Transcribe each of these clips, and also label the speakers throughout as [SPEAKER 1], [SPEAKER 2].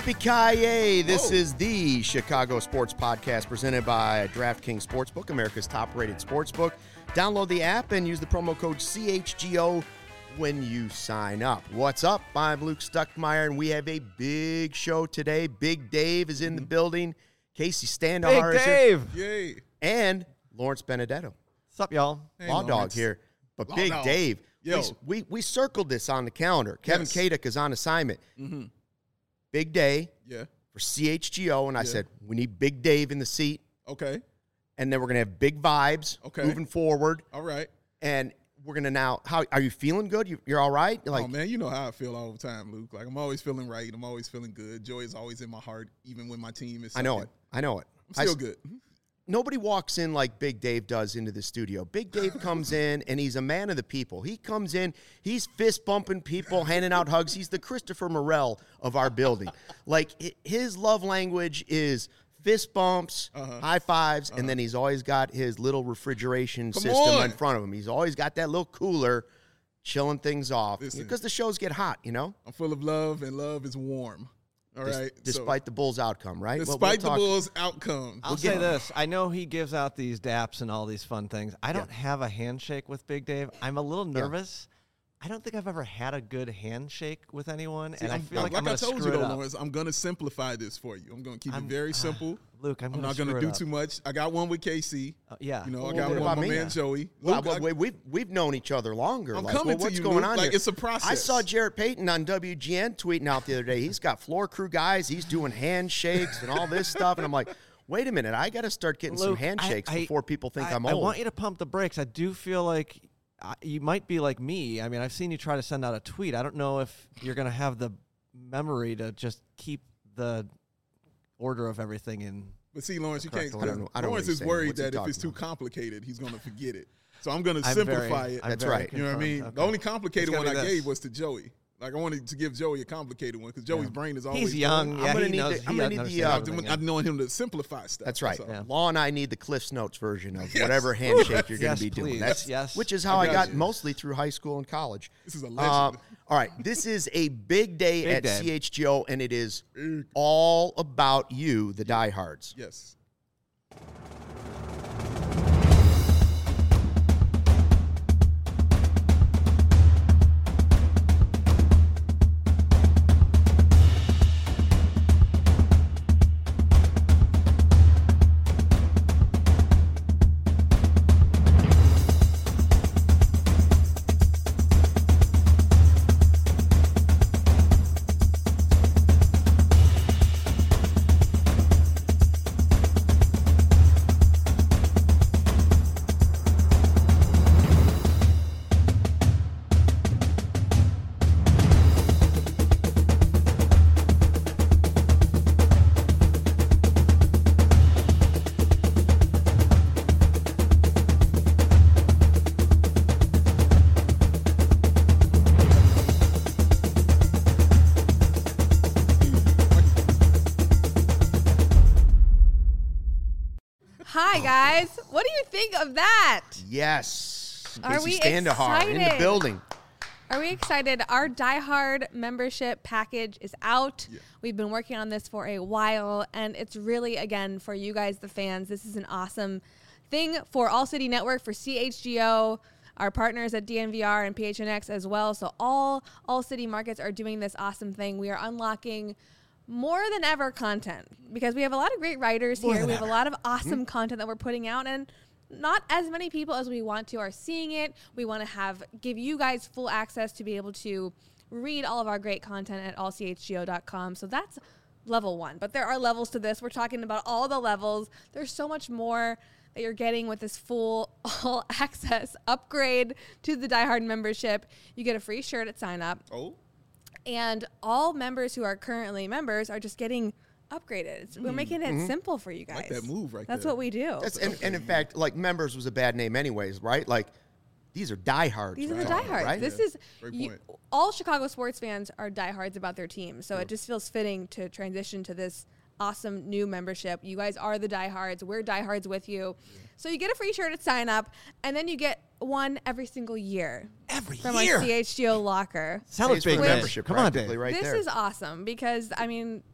[SPEAKER 1] Yippee-ki-yay! This is the Chicago Sports Podcast presented by DraftKings Sportsbook, America's top-rated sportsbook. Download the app and use the promo code CHGO when you sign up. What's up? I'm Luke Stuckmeyer, and we have a big show today. Big Dave is in the building. Casey Standahar is here.
[SPEAKER 2] Big Dave! Yay!
[SPEAKER 1] And Lawrence Benedetto.
[SPEAKER 3] What's up, y'all?
[SPEAKER 2] Hey,
[SPEAKER 1] Law
[SPEAKER 2] Lawrence.
[SPEAKER 1] Dog here. But
[SPEAKER 2] Law
[SPEAKER 1] Big
[SPEAKER 2] Dog.
[SPEAKER 1] Dave,
[SPEAKER 2] Yo.
[SPEAKER 1] we circled this on the calendar. Kevin
[SPEAKER 2] Yes.
[SPEAKER 1] Kaduk is on assignment.
[SPEAKER 2] Mm-hmm.
[SPEAKER 1] Big day
[SPEAKER 2] Yeah.
[SPEAKER 1] for CHGO, and I
[SPEAKER 2] Yeah.
[SPEAKER 1] said, we need Big Dave in the seat,
[SPEAKER 2] Okay.
[SPEAKER 1] and then we're going to have big vibes moving forward.
[SPEAKER 2] All right.
[SPEAKER 1] And we're going to now, how are you feeling good? You're all right? You're like,
[SPEAKER 2] Oh, man, you know how I feel all the time, Luke. Like, I'm always feeling right. I'm always feeling good. Joy is always in my heart, even when my team is
[SPEAKER 1] I know
[SPEAKER 2] sucking.
[SPEAKER 1] it. I know it.
[SPEAKER 2] I'm still good.
[SPEAKER 1] Nobody walks in like Big Dave does into the studio. Big Dave comes in, and he's a man of the people. He comes in, he's fist-bumping people, handing out hugs. He's the Christopher Morel of our building. Like, his love language is fist bumps, high fives, and then he's always got his little refrigeration system
[SPEAKER 2] on.
[SPEAKER 1] in front of him. He's always got that little cooler chilling things off
[SPEAKER 2] Listen.
[SPEAKER 1] because the shows get hot, you know?
[SPEAKER 2] I'm full of love, and love is warm. All right.
[SPEAKER 1] Despite the Bulls' outcome, right?
[SPEAKER 2] So,
[SPEAKER 1] Well,
[SPEAKER 2] despite
[SPEAKER 1] we'll
[SPEAKER 2] the
[SPEAKER 1] talk-
[SPEAKER 2] Bulls' outcome.
[SPEAKER 3] I'll say this. I know he gives out these daps and all these fun things. I don't have a handshake with Big Dave. I'm a little nervous. I don't think I've ever had a good handshake with anyone, and I feel like I'm
[SPEAKER 2] I
[SPEAKER 3] going to
[SPEAKER 2] told
[SPEAKER 3] screw
[SPEAKER 2] you,
[SPEAKER 3] it
[SPEAKER 2] though,
[SPEAKER 3] up.
[SPEAKER 2] Lawrence, I'm going to simplify this for you. I'm going to keep it very simple.
[SPEAKER 3] Luke, I'm
[SPEAKER 2] I'm
[SPEAKER 3] going
[SPEAKER 2] not
[SPEAKER 3] to
[SPEAKER 2] going to do too much. I got one with KC.
[SPEAKER 3] Yeah.
[SPEAKER 2] You know,
[SPEAKER 1] Well,
[SPEAKER 2] I got
[SPEAKER 1] what
[SPEAKER 2] one
[SPEAKER 1] about
[SPEAKER 2] with my
[SPEAKER 1] me?
[SPEAKER 2] man Joey.
[SPEAKER 1] Well,
[SPEAKER 2] Luke,
[SPEAKER 1] we've known each other longer.
[SPEAKER 2] I'm
[SPEAKER 1] like,
[SPEAKER 2] coming
[SPEAKER 1] well,
[SPEAKER 2] to
[SPEAKER 1] what's
[SPEAKER 2] you,
[SPEAKER 1] going
[SPEAKER 2] Luke.
[SPEAKER 1] on
[SPEAKER 2] Like,
[SPEAKER 1] here?
[SPEAKER 2] it's a process.
[SPEAKER 1] I saw Jarrett Payton on WGN tweeting out the other day. He's got floor crew guys. He's doing handshakes and all this stuff. And I'm like, wait a minute. I got to start getting some
[SPEAKER 3] Luke,
[SPEAKER 1] handshakes before people think I'm
[SPEAKER 3] I
[SPEAKER 1] old.
[SPEAKER 3] want you to pump the brakes. I do feel like you might be like me. I mean, I've seen you try to send out a tweet. I don't know if you're going to have the memory to just keep the order of everything in.
[SPEAKER 2] But see, Lawrence, you
[SPEAKER 3] Correct.
[SPEAKER 2] can't.
[SPEAKER 3] I don't
[SPEAKER 1] know what
[SPEAKER 2] Lawrence
[SPEAKER 1] he's
[SPEAKER 2] is
[SPEAKER 1] saying.
[SPEAKER 2] worried
[SPEAKER 1] What's he
[SPEAKER 2] that if it's
[SPEAKER 1] talking
[SPEAKER 2] too
[SPEAKER 1] about?
[SPEAKER 2] complicated, he's going to forget it. So I'm going to
[SPEAKER 3] I'm
[SPEAKER 2] simplify
[SPEAKER 3] very-
[SPEAKER 2] it.
[SPEAKER 3] I'm
[SPEAKER 1] That's
[SPEAKER 3] very
[SPEAKER 1] right.
[SPEAKER 2] You know what I mean?
[SPEAKER 3] confirmed.
[SPEAKER 2] The only complicated
[SPEAKER 3] It's
[SPEAKER 2] one
[SPEAKER 3] gonna
[SPEAKER 2] I
[SPEAKER 3] be
[SPEAKER 2] gave
[SPEAKER 3] this.
[SPEAKER 2] was to Joey. Like, I wanted to give Joey a complicated one because Joey's brain is always
[SPEAKER 3] He's young.
[SPEAKER 2] going.
[SPEAKER 3] Yeah,
[SPEAKER 1] I'm gonna
[SPEAKER 3] he
[SPEAKER 1] need
[SPEAKER 3] knows.
[SPEAKER 1] the- I'm
[SPEAKER 3] he
[SPEAKER 1] gonna need the,
[SPEAKER 3] understands
[SPEAKER 1] uh,
[SPEAKER 3] everything,
[SPEAKER 2] I want him to simplify stuff.
[SPEAKER 1] That's right.
[SPEAKER 2] all.
[SPEAKER 3] Yeah.
[SPEAKER 1] Law and I need the Cliff's Notes version of whatever handshake you're going
[SPEAKER 3] Yes,
[SPEAKER 1] to be doing.
[SPEAKER 3] please.
[SPEAKER 1] That's
[SPEAKER 3] Yes.
[SPEAKER 1] which is how
[SPEAKER 2] I
[SPEAKER 1] I
[SPEAKER 2] got
[SPEAKER 1] got
[SPEAKER 2] you.
[SPEAKER 1] mostly through high school and college.
[SPEAKER 2] This is a legend.
[SPEAKER 1] All right, this is a big day
[SPEAKER 3] Big
[SPEAKER 1] at
[SPEAKER 3] day.
[SPEAKER 1] CHGO, and it is all about you, the diehards.
[SPEAKER 2] Yes.
[SPEAKER 4] Hi, guys. What do you think of that?
[SPEAKER 1] Yes.
[SPEAKER 4] Are
[SPEAKER 1] Casey
[SPEAKER 4] we
[SPEAKER 1] Standahar in the
[SPEAKER 4] excited?
[SPEAKER 1] building.
[SPEAKER 4] Are we excited? Our Die Hard membership package is out.
[SPEAKER 2] Yeah.
[SPEAKER 4] We've been working on this for a while, and it's really, again, for you guys, the fans, this is an awesome thing for All City Network, for CHGO, our partners at DNVR and PHNX as well. So all city markets are doing this awesome thing. We are unlocking more than ever content because we have a lot of great writers here. We have a lot of awesome content that we're putting out, and not as many people as we want to are seeing it. We want to give you guys full access to be able to read all of our great content at allchgo.com. So that's level one. But there are levels to this. We're talking about all the levels. There's so much more that you're getting with this full all access upgrade to the Die Hard membership. You get a free shirt at sign up.
[SPEAKER 2] Oh.
[SPEAKER 4] And all members who are currently members are just getting upgraded. We're making it simple for you guys.
[SPEAKER 2] Like that move right
[SPEAKER 4] That's
[SPEAKER 2] there.
[SPEAKER 4] what we do.
[SPEAKER 1] And in fact, like, members was a bad name anyways, right? Like, these are diehards.
[SPEAKER 4] These are
[SPEAKER 1] we're
[SPEAKER 4] the
[SPEAKER 1] talking,
[SPEAKER 4] diehards.
[SPEAKER 1] right?
[SPEAKER 4] This
[SPEAKER 2] Yeah.
[SPEAKER 4] is
[SPEAKER 2] Great point.
[SPEAKER 4] all Chicago sports fans are diehards about their team. So it just feels fitting to transition to this awesome new membership. You guys are the diehards. We're diehards with you. So you get a free shirt at sign up, and then you get one every single year. From
[SPEAKER 3] year?
[SPEAKER 4] our CHGO locker.
[SPEAKER 3] Sounds
[SPEAKER 1] Pays for
[SPEAKER 3] big
[SPEAKER 1] the
[SPEAKER 3] man.
[SPEAKER 1] membership
[SPEAKER 3] Come on,
[SPEAKER 1] practically
[SPEAKER 3] Dave.
[SPEAKER 1] right
[SPEAKER 4] this
[SPEAKER 1] there.
[SPEAKER 4] is awesome because, I mean,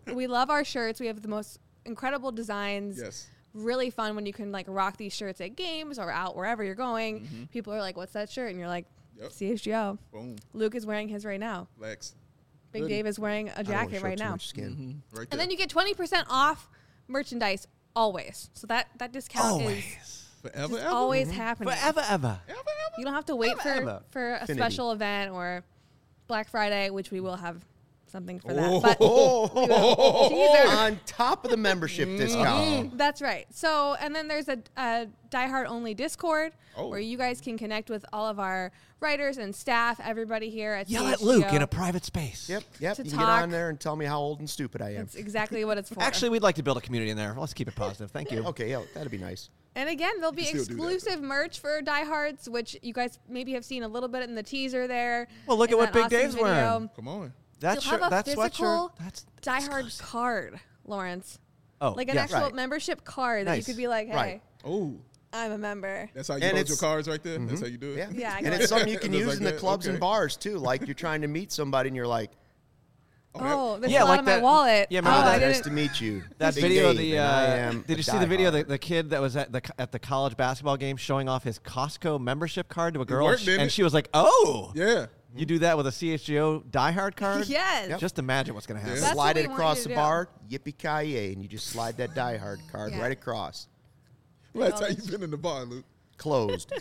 [SPEAKER 4] we love our shirts. We have the most incredible designs.
[SPEAKER 2] Yes.
[SPEAKER 4] Really fun when you can like rock these shirts at games or out wherever you're going. People are like, "What's that shirt?" And you're like,
[SPEAKER 2] Yep.
[SPEAKER 4] "CHGO."
[SPEAKER 2] Boom.
[SPEAKER 4] Luke is wearing his right now.
[SPEAKER 2] Flex.
[SPEAKER 4] Big
[SPEAKER 2] Hoodie.
[SPEAKER 4] Dave is wearing a
[SPEAKER 1] I don't wanna
[SPEAKER 4] jacket
[SPEAKER 1] show
[SPEAKER 4] right
[SPEAKER 1] too
[SPEAKER 4] now.
[SPEAKER 1] much skin.
[SPEAKER 2] Right there.
[SPEAKER 4] And then you get 20% off merchandise always. So that discount is
[SPEAKER 3] Always.
[SPEAKER 2] forever,
[SPEAKER 4] just
[SPEAKER 2] ever?
[SPEAKER 4] always happening.
[SPEAKER 3] Forever, ever.
[SPEAKER 4] You don't have to wait
[SPEAKER 3] Forever.
[SPEAKER 4] for a
[SPEAKER 1] Infinity.
[SPEAKER 4] special event or Black Friday, which we will have something for
[SPEAKER 2] Oh.
[SPEAKER 4] that. But
[SPEAKER 1] Oh,
[SPEAKER 4] Teaser.
[SPEAKER 1] on top of the membership discount.
[SPEAKER 4] that's right. So, and then there's a Die Hard only Discord
[SPEAKER 2] Oh.
[SPEAKER 4] where you guys can connect with all of our writers and staff, everybody here at
[SPEAKER 3] Yell at
[SPEAKER 4] CHGO.
[SPEAKER 3] Luke in a private space.
[SPEAKER 1] Yep.
[SPEAKER 4] To
[SPEAKER 1] You can get
[SPEAKER 4] talk.
[SPEAKER 1] on there and tell me how old and stupid I am.
[SPEAKER 4] That's exactly what it's for.
[SPEAKER 3] Actually, we'd like to build a community in there. Let's keep it positive. Thank you.
[SPEAKER 1] Okay, yeah, that'd be nice.
[SPEAKER 4] And again, there'll be
[SPEAKER 2] You can still do that,
[SPEAKER 4] exclusive merch for diehards, which you guys maybe have seen a little bit in the teaser there.
[SPEAKER 3] Well, look
[SPEAKER 4] in
[SPEAKER 3] at what
[SPEAKER 4] that
[SPEAKER 3] Big
[SPEAKER 4] awesome
[SPEAKER 3] Dave's
[SPEAKER 4] video.
[SPEAKER 3] wearing.
[SPEAKER 2] Come on.
[SPEAKER 3] That
[SPEAKER 4] You'll
[SPEAKER 3] shirt,
[SPEAKER 4] have a
[SPEAKER 3] that
[SPEAKER 4] physical
[SPEAKER 3] sweatshirt, that's
[SPEAKER 4] diehard
[SPEAKER 3] exclusive.
[SPEAKER 4] card, Lawrence.
[SPEAKER 3] Oh,
[SPEAKER 4] Like an
[SPEAKER 3] yes.
[SPEAKER 4] actual
[SPEAKER 1] Right.
[SPEAKER 4] membership card that you
[SPEAKER 3] Nice.
[SPEAKER 4] could be like, hey,
[SPEAKER 1] Right.
[SPEAKER 2] Oh,
[SPEAKER 4] I'm a member.
[SPEAKER 2] that's how you
[SPEAKER 1] And
[SPEAKER 2] load your
[SPEAKER 1] it's-
[SPEAKER 2] cards right there? That's how you do it?
[SPEAKER 1] Yeah.
[SPEAKER 4] Yeah, I
[SPEAKER 1] And
[SPEAKER 4] go
[SPEAKER 1] it's
[SPEAKER 4] like
[SPEAKER 1] something you can
[SPEAKER 2] Just
[SPEAKER 1] use
[SPEAKER 2] like
[SPEAKER 1] in the
[SPEAKER 2] that?
[SPEAKER 1] clubs and
[SPEAKER 2] Okay.
[SPEAKER 1] bars too. Like you're trying to meet somebody and you're like,
[SPEAKER 4] Oh, this
[SPEAKER 3] Yeah,
[SPEAKER 4] is out
[SPEAKER 3] like
[SPEAKER 4] of my
[SPEAKER 3] that-
[SPEAKER 4] wallet.
[SPEAKER 3] yeah,
[SPEAKER 4] oh,
[SPEAKER 3] remember
[SPEAKER 4] I
[SPEAKER 3] that-
[SPEAKER 1] nice
[SPEAKER 4] didn't.
[SPEAKER 1] to meet you.
[SPEAKER 3] That
[SPEAKER 1] Big
[SPEAKER 3] video of
[SPEAKER 1] Dave,
[SPEAKER 3] the
[SPEAKER 1] and I am
[SPEAKER 3] did you
[SPEAKER 1] a
[SPEAKER 3] see the video
[SPEAKER 1] diehard.
[SPEAKER 3] the kid that was at the college basketball game showing off his Costco membership card to a girl
[SPEAKER 2] worked,
[SPEAKER 3] and,
[SPEAKER 2] didn't
[SPEAKER 3] and
[SPEAKER 2] it?
[SPEAKER 3] she was like, "Oh,
[SPEAKER 2] Yeah.
[SPEAKER 3] you do that with a CHGO diehard card?"
[SPEAKER 4] Yes.
[SPEAKER 1] Yep.
[SPEAKER 3] Just imagine what's going to happen.
[SPEAKER 2] Yeah.
[SPEAKER 4] That's
[SPEAKER 1] slide
[SPEAKER 4] what
[SPEAKER 1] it
[SPEAKER 4] we want
[SPEAKER 1] across
[SPEAKER 4] you to
[SPEAKER 1] the
[SPEAKER 4] do.
[SPEAKER 1] bar, yippee-ki-yay, and you just slide that diehard card
[SPEAKER 4] Yeah.
[SPEAKER 1] right across.
[SPEAKER 2] Last time you been in the bar, Luke.
[SPEAKER 1] Closed.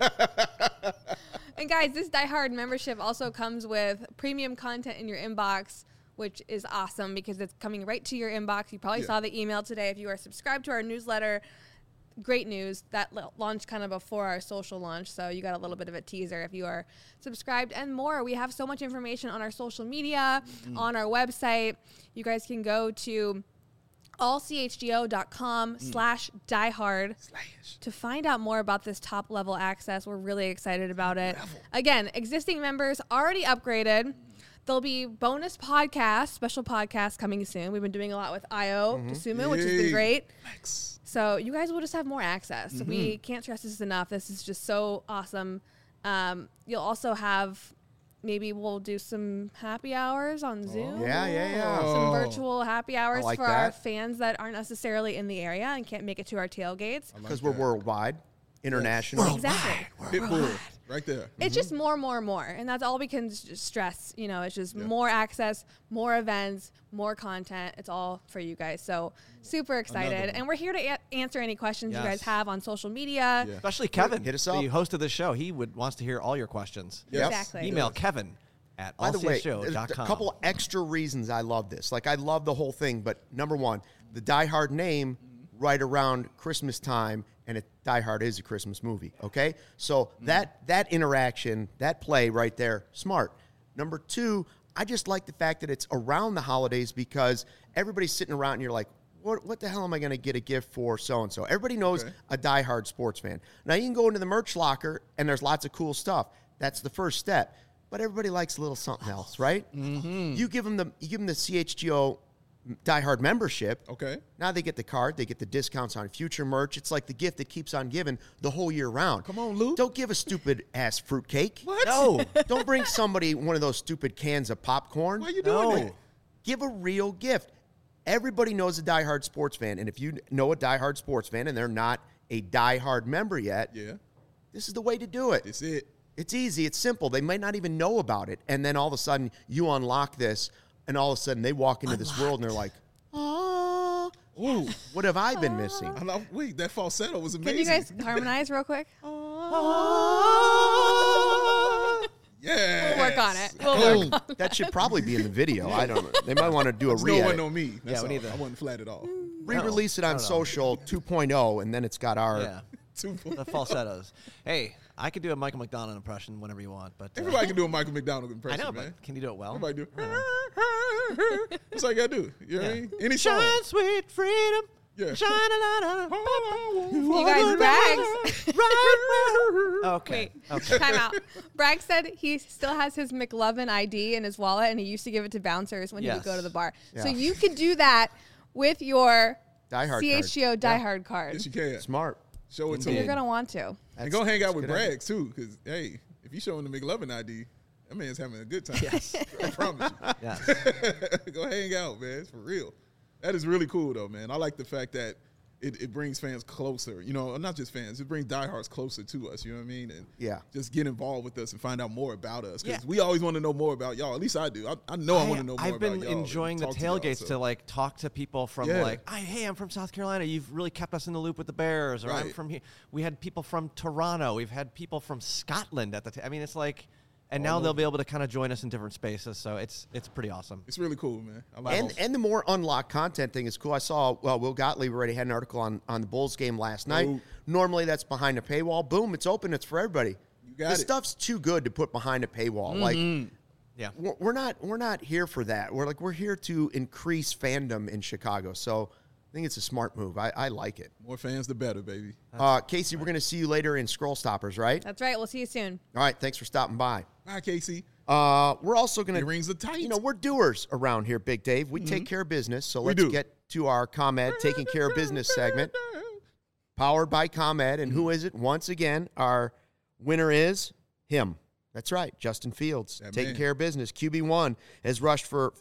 [SPEAKER 4] And guys, this Die Hard membership also comes with premium content in your inbox, which is awesome because it's coming right to your inbox. You probably
[SPEAKER 2] Yeah.
[SPEAKER 4] saw the email today. If you are subscribed to our newsletter, great news. That launched kind of before our social launch, so you got a little bit of a teaser if you are subscribed and more. We have so much information on our social media, on our website. You guys can go to allchgo.com/diehard to find out more about this top level access. We're really excited about it. Again, existing members already upgraded. There'll be bonus podcasts, special podcasts coming soon. We've been doing a lot with Io Dosunmu, which has been
[SPEAKER 2] Yay.
[SPEAKER 4] great.
[SPEAKER 2] Flex.
[SPEAKER 4] So you guys will just have more access. We can't stress this enough. This is just so awesome. You'll also have, maybe we'll do some happy hours on Zoom.
[SPEAKER 1] Yeah.
[SPEAKER 4] Some
[SPEAKER 2] Oh.
[SPEAKER 4] virtual happy hours
[SPEAKER 1] like
[SPEAKER 4] for our
[SPEAKER 1] that.
[SPEAKER 4] fans that aren't necessarily in the area and can't make it to our tailgates.
[SPEAKER 1] Because we're worldwide, international.
[SPEAKER 4] Exactly.
[SPEAKER 2] Pitbull. Right there.
[SPEAKER 4] It's just more. And that's all we can stress. You know, it's just more access, more events, more content. It's all for you guys. So super excited.
[SPEAKER 2] Another one.
[SPEAKER 4] And we're here to answer any questions you
[SPEAKER 3] Yes.
[SPEAKER 4] guys have on social media.
[SPEAKER 2] Yeah.
[SPEAKER 3] Especially Kevin,
[SPEAKER 1] Hit us
[SPEAKER 3] the
[SPEAKER 1] up.
[SPEAKER 3] host of the show. He wants to hear all your questions.
[SPEAKER 2] Yep.
[SPEAKER 4] Exactly.
[SPEAKER 3] Email Kevin at
[SPEAKER 1] By the way, there's a
[SPEAKER 3] allchgo.com.
[SPEAKER 1] couple extra reasons I love this. Like, I love the whole thing, but number one, the Die Hard name right around Christmas time, and Die Hard is a Christmas movie, okay? So that interaction, that play right there, smart. Number two, I just like the fact that it's around the holidays because everybody's sitting around and you're like, what the hell am I going to get a gift for so-and-so? Everybody knows
[SPEAKER 2] Okay.
[SPEAKER 1] a diehard sports fan. Now, you can go into the merch locker, and there's lots of cool stuff. That's the first step. But everybody likes a little something else, right? Mm-hmm. You give them the CHGO diehard membership.
[SPEAKER 2] Okay.
[SPEAKER 1] Now they get the card. They get the discounts on future merch. It's like the gift that keeps on giving the whole year round.
[SPEAKER 2] Come on, Luke.
[SPEAKER 1] Don't give a stupid-ass fruitcake.
[SPEAKER 2] What?
[SPEAKER 1] No. Don't bring somebody one of those stupid cans of popcorn.
[SPEAKER 2] Why you doing
[SPEAKER 3] No.
[SPEAKER 2] that?
[SPEAKER 1] Give a real gift. Everybody knows a diehard sports fan, and if you know a diehard sports fan and they're not a diehard member yet,
[SPEAKER 2] Yeah.
[SPEAKER 1] this is the way to do it.
[SPEAKER 2] It's it.
[SPEAKER 1] It's easy. It's simple. They might not even know about it, and then all of a sudden you unlock this, and all of a sudden they walk into this world and they're like, "Oh,
[SPEAKER 2] Ooh.
[SPEAKER 1] what have I been missing?"
[SPEAKER 2] I know. Wait, that falsetto was amazing.
[SPEAKER 4] Can you guys harmonize real quick?
[SPEAKER 2] Yeah.
[SPEAKER 4] We'll work on it. We'll work on
[SPEAKER 1] That should probably be in the video. I don't know. They might want to do a
[SPEAKER 2] No, it wasn't
[SPEAKER 1] re
[SPEAKER 2] on me. That's
[SPEAKER 3] we
[SPEAKER 2] all.
[SPEAKER 3] need to-
[SPEAKER 2] I wasn't flat at all.
[SPEAKER 1] re-release it on social 2.0, and then it's got our.
[SPEAKER 3] Yeah, the falsettos. Hey, I could do a Michael McDonald impression whenever you want, but
[SPEAKER 2] Everybody can do a Michael McDonald
[SPEAKER 3] I
[SPEAKER 2] impression,
[SPEAKER 3] know,
[SPEAKER 2] man.
[SPEAKER 3] but can you do it well?
[SPEAKER 2] Everybody do. That's all you gotta do. You know what I mean? Any song.
[SPEAKER 3] Shine, sweet freedom.
[SPEAKER 2] Yeah.
[SPEAKER 3] Shine a light on.
[SPEAKER 4] You guys, Braggs.
[SPEAKER 3] Okay.
[SPEAKER 4] Wait,
[SPEAKER 3] Okay.
[SPEAKER 4] time out. Bragg said he still has his McLovin ID in his wallet, and he used to give it to bouncers when he would go to the bar. So
[SPEAKER 1] Yeah.
[SPEAKER 4] you could do that with your
[SPEAKER 1] Die Hard
[SPEAKER 4] CHGO
[SPEAKER 1] card.
[SPEAKER 4] diehard card.
[SPEAKER 2] Yes, you can.
[SPEAKER 1] Smart.
[SPEAKER 2] Show it to
[SPEAKER 3] Indeed.
[SPEAKER 4] You're
[SPEAKER 2] him.
[SPEAKER 4] gonna want to.
[SPEAKER 2] And go hang out with
[SPEAKER 1] good idea.
[SPEAKER 2] Braggs, too, because, hey, if you showing the McLovin ID, that man's having a good time. Yes. I promise you.
[SPEAKER 3] Yes.
[SPEAKER 2] Go hang out, man. It's for real. That is really cool, though, man. I like the fact that it brings fans closer. You know, not just fans. It brings diehards closer to us. You know what I mean? And just get involved with us and find out more about us. Because we always want to know more about y'all. At least I do. I know I want to know more about y'all.
[SPEAKER 3] I've been enjoying the tailgates to like talk to people from hey, I'm from South Carolina. You've really kept us in the loop with the Bears. Or I'm from here. We had people from Toronto. We've had people from Scotland at the I mean, it's like. And now they'll be able to kind of join us in different spaces, so it's pretty awesome.
[SPEAKER 2] It's really cool, man. I like
[SPEAKER 1] and the more unlocked content thing is cool. I saw Will Gottlieb already had an article on the Bulls game last night. Normally that's behind a paywall. Boom, it's open. It's for everybody.
[SPEAKER 2] You got
[SPEAKER 1] the stuff's too good to put behind a paywall. Like, we're not here for that. We're here to increase fandom in Chicago. So I think it's a smart move. I like it.
[SPEAKER 2] More fans, the better, baby.
[SPEAKER 1] Casey, we're going to see you later in Scroll Stoppers, right?
[SPEAKER 4] That's right. We'll see you soon.
[SPEAKER 1] All right. Thanks for stopping by.
[SPEAKER 2] Bye, Casey.
[SPEAKER 1] We're also going to...
[SPEAKER 2] Rings are tight.
[SPEAKER 1] You know, we're doers around here, Big Dave. We take care of business. So let's get to our ComEd Taking Care of Business segment. Powered by ComEd. And who is it? Once again, our winner is him. That's right, Justin Fields, taking care of business. QB1 has rushed for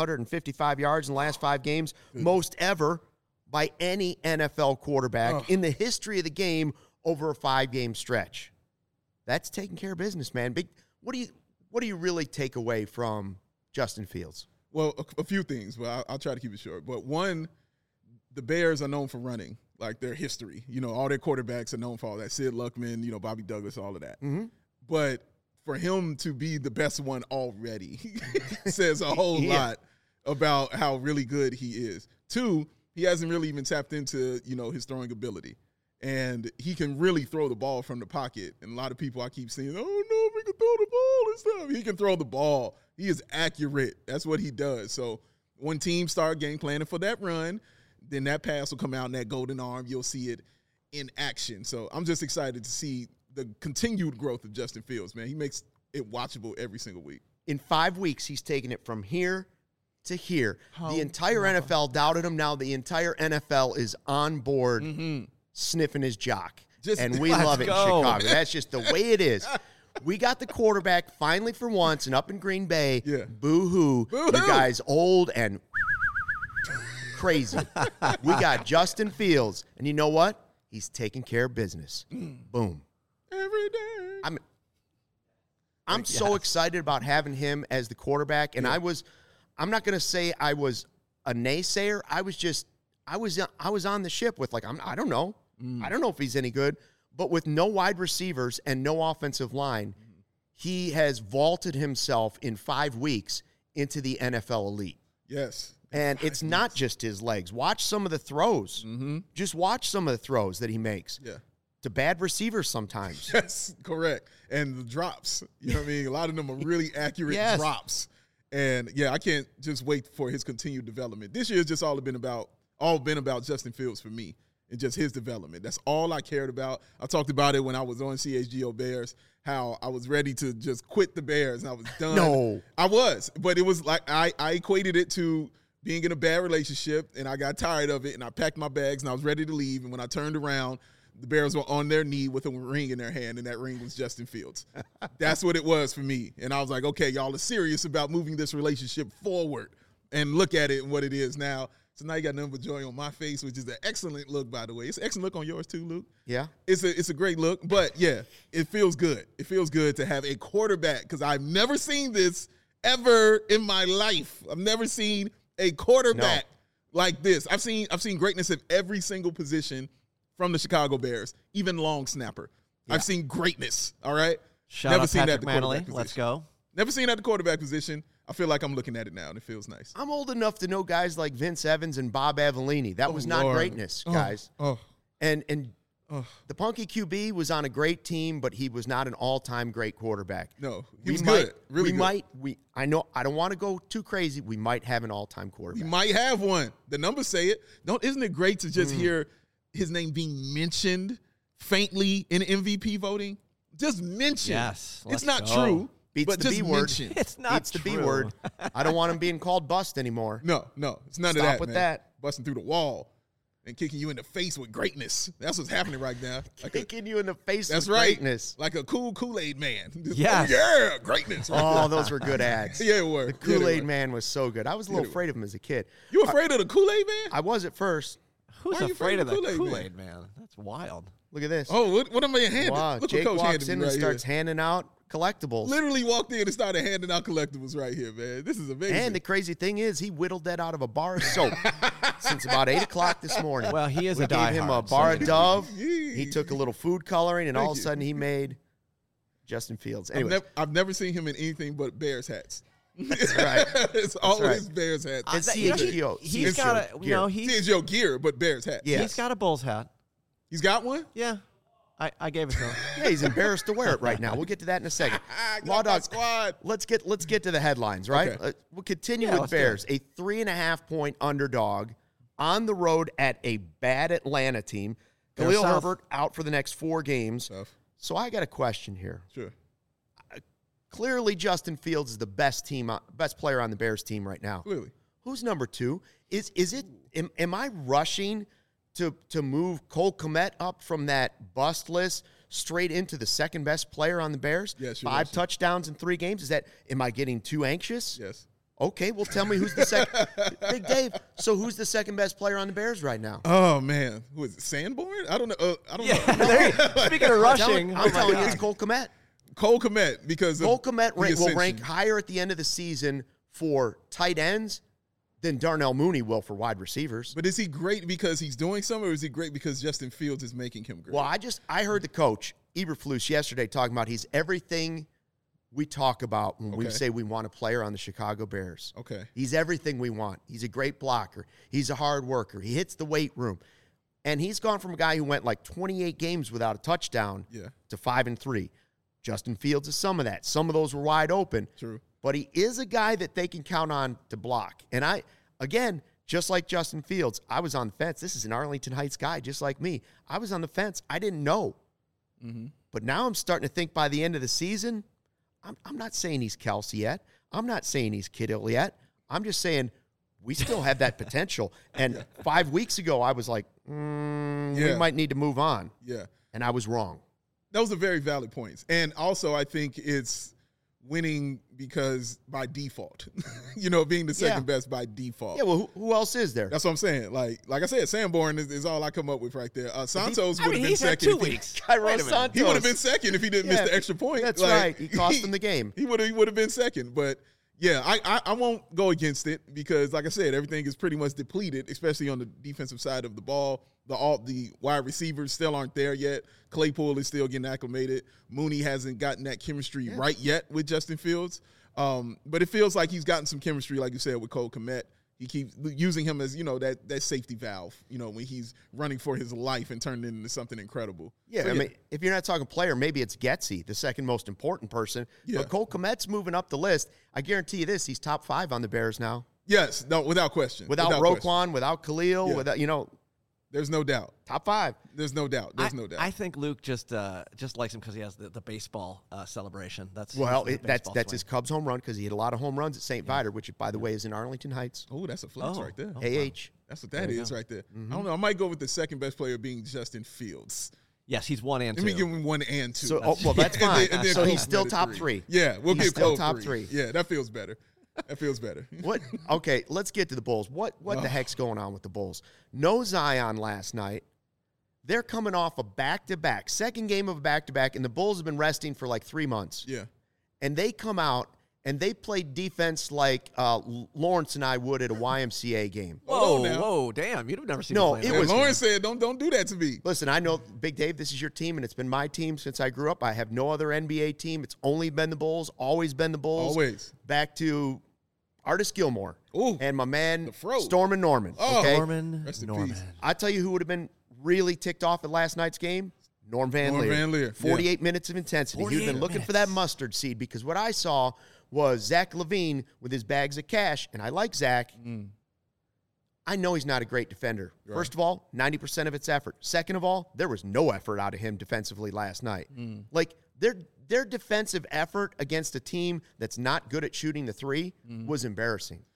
[SPEAKER 1] 555 yards in the last 5 games, most ever by any NFL quarterback in the history of the game over a 5-game stretch. That's taking care of business, man. What do you really take away from Justin Fields?
[SPEAKER 2] Well, a few things, but I'll try to keep it short. But one, the Bears are known for running, like their history. You know, all their quarterbacks are known for all that. Sid Luckman, you know, Bobby Douglas, all of that. But for him to be the best one already says a whole lot about how really good he is. 2, he hasn't really even tapped into, you know, his throwing ability. And he can really throw the ball from the pocket. And a lot of people I keep seeing, oh, no, we can throw the ball and stuff. He can throw the ball. He is accurate. That's what he does. So when teams start game planning for that run, then that pass will come out in that golden arm. You'll see it in action. So I'm just excited to see the continued growth of Justin Fields, man. He makes it watchable every single week.
[SPEAKER 1] In 5 weeks, he's taken it from here to here. The entire NFL doubted him. Now the entire NFL is on board sniffing his jock. And we love it in Chicago. That's just the way it is. We got the quarterback finally for once and up in Green Bay. Boo-hoo. You guys old and crazy. We got Justin Fields. And you know what? He's taking care of business. Boom.
[SPEAKER 2] Every day.
[SPEAKER 1] I'm so excited about having him as the quarterback. And I'm not going to say I was a naysayer. I was on the ship with I don't know. I don't know if he's any good. But with no wide receivers and no offensive line, he has vaulted himself in 5 weeks into the NFL elite.
[SPEAKER 2] Yes.
[SPEAKER 1] And it's not just his legs. Watch some of the throws. Just watch some of the throws that he makes. To bad receivers sometimes.
[SPEAKER 2] Yes, correct. And the drops. You know what I mean? A lot of them are really accurate drops. And, I can't just wait for his continued development. This year has just all been about Justin Fields for me and just his development. That's all I cared about. I talked about it when I was on CHGO Bears, how I was ready to just quit the Bears and I was done.
[SPEAKER 1] No.
[SPEAKER 2] I was. But it was like I equated it to being in a bad relationship, and I got tired of it, and I packed my bags, and I was ready to leave. And when I turned around, the Bears were on their knee with a ring in their hand, and that ring was Justin Fields. That's what it was for me. And I was like, okay, y'all are serious about moving this relationship forward. And look at it and what it is now. So now you got nothing but joy on my face, which is an excellent look, by the way. It's an excellent look on yours too, Luke.
[SPEAKER 1] Yeah.
[SPEAKER 2] It's a great look. But, it feels good. It feels good to have a quarterback because I've never seen this ever in my life. I've never seen a quarterback like this. I've seen greatness at every single position from the Chicago Bears, even long snapper. I've seen greatness, all right?
[SPEAKER 3] Shout out Patrick Manley. Let's go.
[SPEAKER 2] Never seen at the quarterback position. I feel like I'm looking at it now, and it feels nice.
[SPEAKER 1] I'm old enough to know guys like Vince Evans and Bob Avellini. That was not greatness, guys. And the Punky QB was on a great team, but he was not an all-time great quarterback.
[SPEAKER 2] No, he was good. Really
[SPEAKER 1] good. I know, I don't want to go too crazy. We might have an all-time quarterback.
[SPEAKER 2] We might have one. The numbers say it. Isn't it great to just hear his name being mentioned faintly in MVP voting? Just mentioned.
[SPEAKER 3] Yes.
[SPEAKER 2] It's not true.
[SPEAKER 1] Beats the B word.
[SPEAKER 2] Mentioned.
[SPEAKER 3] It's not
[SPEAKER 1] Beats the B word. I don't want him being called bust anymore.
[SPEAKER 2] No. It's none of that.
[SPEAKER 1] Stop with that.
[SPEAKER 2] Busting through the wall. and kicking you in the face with greatness. That's what's happening right now.
[SPEAKER 1] Kicking you in the face
[SPEAKER 2] That's
[SPEAKER 1] with
[SPEAKER 2] right.
[SPEAKER 1] greatness.
[SPEAKER 2] Like a cool Kool-Aid man. Just,
[SPEAKER 3] Yes.
[SPEAKER 2] oh, yeah, greatness.
[SPEAKER 1] Oh, those were good ads.
[SPEAKER 2] Yeah, it were.
[SPEAKER 1] The Kool-Aid Man was so good. I was a little
[SPEAKER 2] they were.
[SPEAKER 1] afraid of him as a kid.
[SPEAKER 2] You afraid of the Kool-Aid man?
[SPEAKER 1] I was at first.
[SPEAKER 3] Who's
[SPEAKER 2] Why are you
[SPEAKER 3] afraid of the
[SPEAKER 2] Kool-Aid Man?
[SPEAKER 3] Kool-Aid man? That's wild.
[SPEAKER 1] Look at this.
[SPEAKER 2] Oh, what am I handing?
[SPEAKER 1] Wow.
[SPEAKER 2] Look
[SPEAKER 1] Jake
[SPEAKER 2] what Coach
[SPEAKER 1] walks
[SPEAKER 2] handed
[SPEAKER 1] in
[SPEAKER 2] me
[SPEAKER 1] and
[SPEAKER 2] right
[SPEAKER 1] starts
[SPEAKER 2] here.
[SPEAKER 1] handing out collectibles.
[SPEAKER 2] Literally walked in and started handing out collectibles right here, man. This is amazing.
[SPEAKER 1] And the crazy thing is, he whittled that out of a bar of soap since about 8 o'clock this morning.
[SPEAKER 3] Well, he is
[SPEAKER 1] we
[SPEAKER 3] a
[SPEAKER 1] gave him a
[SPEAKER 3] diehard,
[SPEAKER 1] bar
[SPEAKER 3] so-
[SPEAKER 1] of Dove.
[SPEAKER 2] Yeah.
[SPEAKER 1] He took a little food coloring, and all of a
[SPEAKER 2] Thank you.
[SPEAKER 1] sudden he made Justin Fields. Anyway,
[SPEAKER 2] I've never seen him in anything but Bears hats.
[SPEAKER 1] that's right.
[SPEAKER 2] It's always
[SPEAKER 1] right.
[SPEAKER 2] Bears hats.
[SPEAKER 1] It's
[SPEAKER 3] You know,
[SPEAKER 1] CHGO.
[SPEAKER 3] He's
[SPEAKER 2] It's
[SPEAKER 3] got a,
[SPEAKER 1] gear.
[SPEAKER 3] you know, he's
[SPEAKER 2] CHGO gear, but Bears hats.
[SPEAKER 1] Yeah.
[SPEAKER 3] he's got a Bulls hat.
[SPEAKER 2] He's got one?
[SPEAKER 3] Yeah, I gave it to him.
[SPEAKER 1] Yeah, he's embarrassed to wear it right now. We'll get to that in a second. Law
[SPEAKER 2] Got my
[SPEAKER 1] Dog,
[SPEAKER 2] squad.
[SPEAKER 1] let's get to the headlines, right?
[SPEAKER 2] Okay.
[SPEAKER 1] We'll continue
[SPEAKER 3] Yeah,
[SPEAKER 1] with
[SPEAKER 3] let's do
[SPEAKER 1] Bears, a 3.5-point underdog on the road at a bad Atlanta team.
[SPEAKER 3] Go
[SPEAKER 1] Khalil
[SPEAKER 3] South.
[SPEAKER 1] Herbert out for the next 4 games.
[SPEAKER 2] Tough.
[SPEAKER 1] So I got a question here.
[SPEAKER 2] Sure.
[SPEAKER 1] Clearly, Justin Fields is the best player on the Bears team right now.
[SPEAKER 2] Clearly.
[SPEAKER 1] Who's number 2? Is it? Am I rushing to move Cole Kmet up from that bust list straight into the second best player on the Bears?
[SPEAKER 2] Yes, you're
[SPEAKER 1] 5
[SPEAKER 2] rushing.
[SPEAKER 1] touchdowns in 3 games. Am I getting too anxious?
[SPEAKER 2] Yes.
[SPEAKER 1] Okay, well, tell me who's the second. Big Dave. So who's the second best player on the Bears right now?
[SPEAKER 2] Oh, man. Who is it? Sanborn? I don't know. I don't
[SPEAKER 3] Yeah,
[SPEAKER 2] know.
[SPEAKER 3] there you- speaking of rushing,
[SPEAKER 1] I'm telling you,
[SPEAKER 3] God.
[SPEAKER 1] it's Cole Kmet.
[SPEAKER 2] Cole Kmet, because of
[SPEAKER 1] Cole Kmet
[SPEAKER 2] the
[SPEAKER 1] will
[SPEAKER 2] ascension.
[SPEAKER 1] rank higher at the end of the season for tight ends than Darnell Mooney will for wide receivers.
[SPEAKER 2] But is he great because he's doing something, or is he great because Justin Fields is making him great?
[SPEAKER 1] Well, I heard the coach, Eberflus, yesterday talking about he's everything we talk about when we
[SPEAKER 2] Okay.
[SPEAKER 1] say we want a player on the Chicago Bears.
[SPEAKER 2] Okay.
[SPEAKER 1] He's everything we want. He's a great blocker. He's a hard worker. He hits the weight room. And he's gone from a guy who went like 28 games without a touchdown
[SPEAKER 2] Yeah.
[SPEAKER 1] to 5-3. Justin Fields is some of that. Some of those were wide open.
[SPEAKER 2] True.
[SPEAKER 1] But he is a guy that they can count on to block. And again, just like Justin Fields, I was on the fence. This is an Arlington Heights guy, just like me. I was on the fence. I didn't know.
[SPEAKER 2] Mm-hmm.
[SPEAKER 1] But now I'm starting to think by the end of the season, I'm not saying he's Kelsey yet. I'm not saying he's Kittle yet. I'm just saying we still have that potential. And 5 weeks ago, I was like, we
[SPEAKER 2] Yeah.
[SPEAKER 1] might need to move on.
[SPEAKER 2] Yeah.
[SPEAKER 1] And I was wrong.
[SPEAKER 2] Those are very valid points. And also, I think it's winning because by default, being the second best by default.
[SPEAKER 1] Yeah, well, who else is there?
[SPEAKER 2] That's what I'm saying. Like I said, Sanborn is all I come up with right there. Santos would have been
[SPEAKER 3] he's had
[SPEAKER 2] second.
[SPEAKER 3] 2
[SPEAKER 2] if he-
[SPEAKER 3] weeks.
[SPEAKER 1] Cairo
[SPEAKER 3] Wait a minute.
[SPEAKER 1] Santos.
[SPEAKER 2] He would have been second if he didn't miss
[SPEAKER 1] Yeah,
[SPEAKER 2] the extra point.
[SPEAKER 1] That's
[SPEAKER 2] Like,
[SPEAKER 1] right. He cost them the game.
[SPEAKER 2] He would have been second. But yeah, I won't go against it because, like I said, everything is pretty much depleted, especially on the defensive side of the ball. The wide receivers still aren't there yet. Claypool is still getting acclimated. Mooney hasn't gotten that chemistry right yet with Justin Fields. But it feels like he's gotten some chemistry, like you said, with Cole Kmet. He keeps using him as, that safety valve, when he's running for his life and turning it into something incredible.
[SPEAKER 1] Yeah,
[SPEAKER 2] So,
[SPEAKER 1] I mean, if you're not talking player, maybe it's Getsy, the second most important person.
[SPEAKER 2] Yeah.
[SPEAKER 1] But Cole Kmet's moving up the list. I guarantee you this, he's top 5 on the Bears now.
[SPEAKER 2] yes, no, without question.
[SPEAKER 1] Without
[SPEAKER 2] question.
[SPEAKER 1] Roquan, without Khalil,
[SPEAKER 2] Yeah.
[SPEAKER 1] without,
[SPEAKER 2] There's no doubt.
[SPEAKER 1] top 5.
[SPEAKER 2] There's no doubt. There's no doubt.
[SPEAKER 3] I think Luke just likes him because he has the baseball celebration.
[SPEAKER 1] Well,
[SPEAKER 3] the
[SPEAKER 1] that's
[SPEAKER 3] baseball
[SPEAKER 1] that's
[SPEAKER 3] swing.
[SPEAKER 1] his Cubs home run because he hit a lot of home runs at St. Viator, which, by the way, is in Arlington Heights.
[SPEAKER 2] Oh, that's a flex
[SPEAKER 3] Oh.
[SPEAKER 2] right there.
[SPEAKER 3] Oh.
[SPEAKER 1] AH.
[SPEAKER 2] That's what that
[SPEAKER 3] There you
[SPEAKER 2] is
[SPEAKER 3] go.
[SPEAKER 2] right there. I don't know. I might go with the second best player being Justin Fields.
[SPEAKER 3] Yes, he's 1 and 2.
[SPEAKER 2] Let me give him 1 and 2.
[SPEAKER 1] So, that's
[SPEAKER 2] And then-
[SPEAKER 1] fine.
[SPEAKER 2] and then
[SPEAKER 1] So
[SPEAKER 2] Cole
[SPEAKER 1] he's still
[SPEAKER 2] Kmet at
[SPEAKER 1] top 3.
[SPEAKER 2] Yeah, we'll
[SPEAKER 1] He's
[SPEAKER 2] get
[SPEAKER 1] still
[SPEAKER 2] Cole
[SPEAKER 1] top
[SPEAKER 2] 3.
[SPEAKER 1] 3.
[SPEAKER 2] Yeah, that feels better. That feels better.
[SPEAKER 1] What? Okay, let's get to the Bulls. What the heck's going on with the Bulls? No Zion last night. They're coming off a back-to-back, second game of a back-to-back, and the Bulls have been resting for like 3 months.
[SPEAKER 2] Yeah.
[SPEAKER 1] And they come out, and they played defense like Lawrence and I would at a YMCA game.
[SPEAKER 3] Whoa,
[SPEAKER 2] Hold on now.
[SPEAKER 3] whoa, damn! You've never seen
[SPEAKER 1] No,
[SPEAKER 3] him play
[SPEAKER 1] it
[SPEAKER 3] that.
[SPEAKER 1] was-
[SPEAKER 2] Lawrence said, don't do that to me.
[SPEAKER 1] Listen, I know, Big Dave, this is your team, and it's been my team since I grew up. I have no other NBA team. It's only been the Bulls, always been the Bulls.
[SPEAKER 2] Always.
[SPEAKER 1] Back to Artis Gilmore
[SPEAKER 2] Ooh,
[SPEAKER 1] and my man,
[SPEAKER 2] the Fro.
[SPEAKER 1] Stormin' Norman.
[SPEAKER 2] Oh.
[SPEAKER 1] Okay?
[SPEAKER 3] Norman.
[SPEAKER 2] Rest in
[SPEAKER 3] Norman.
[SPEAKER 2] peace.
[SPEAKER 1] I tell you who would have been really ticked off at last night's game? Norm Van
[SPEAKER 2] Norm
[SPEAKER 1] Leer.
[SPEAKER 2] Van Leer,
[SPEAKER 1] 48 minutes of intensity. He'd
[SPEAKER 3] 48
[SPEAKER 1] been looking for that mustard seed because what I saw was Zach Levine with his bags of cash, and I like Zach. I know he's not a great defender.
[SPEAKER 2] Right.
[SPEAKER 1] First of all, 90% of it's effort. Second of all, there was no effort out of him defensively last night. Like, their defensive effort against a team that's not good at shooting the three was embarrassing.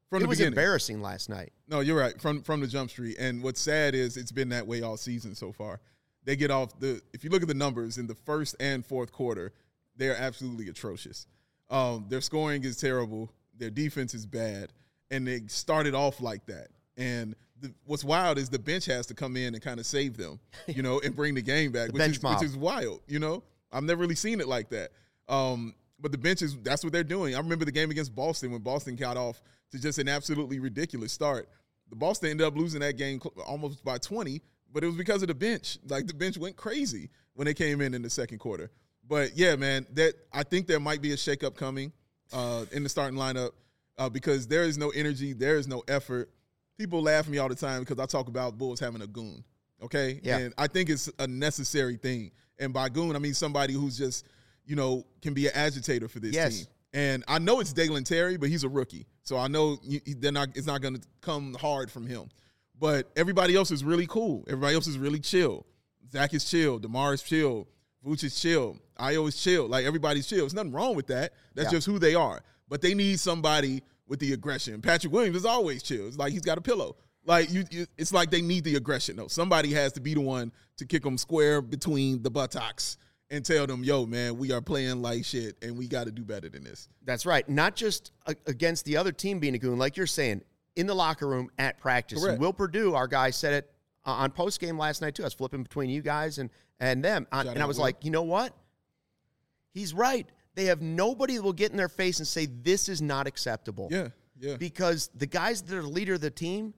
[SPEAKER 2] From
[SPEAKER 1] It
[SPEAKER 2] the
[SPEAKER 1] was
[SPEAKER 2] beginning.
[SPEAKER 1] embarrassing last night.
[SPEAKER 2] No, you're right. From the jump street. And what's sad is it's been that way all season so far. They get off if you look at the numbers in the first and fourth quarter, they're absolutely atrocious. Their scoring is terrible. Their defense is bad. And they started off like that. And what's wild is the bench has to come in and kind of save them, and bring the game back, which is wild, I've never really seen it like that. But the bench that's what they're doing. I remember the game against Boston when Boston got off to just an absolutely ridiculous start. The Boston ended up losing that game almost by 20, but it was because of the bench. Like, the bench went crazy when they came in the second quarter. But, yeah, man, I think there might be a shakeup coming in the starting lineup because there is no energy, there is no effort. People laugh at me all the time because I talk about Bulls having a goon, okay?
[SPEAKER 1] Yeah.
[SPEAKER 2] And I think it's a necessary thing. And by goon, I mean somebody who's just, can be an agitator for this team. And I know it's Dalen Terry, but he's a rookie. So I know it's not going to come hard from him. But everybody else is really cool. Everybody else is really chill. Zach is chill. DeMar is chill. Vooch is chill. Io is chill. Like, everybody's chill. There's nothing wrong with that. That's just who they are. But they need somebody with the aggression. Patrick Williams is always chill. It's like he's got a pillow. Like, it's like they need the aggression, though. Somebody has to be the one to kick them square between the buttocks and tell them, yo, man, we are playing like shit, and we got to do better than this.
[SPEAKER 1] That's right. Not just against the other team being a goon, like you're saying, in the locker room, at practice.
[SPEAKER 2] Correct.
[SPEAKER 1] And Will Perdue, our guy, said it on postgame last night, too. I was flipping between you guys and them. And I was like, you know what? He's right. They have nobody that will get in their face and say, this is not acceptable.
[SPEAKER 2] Yeah.
[SPEAKER 1] Because the guys that are the leader of the team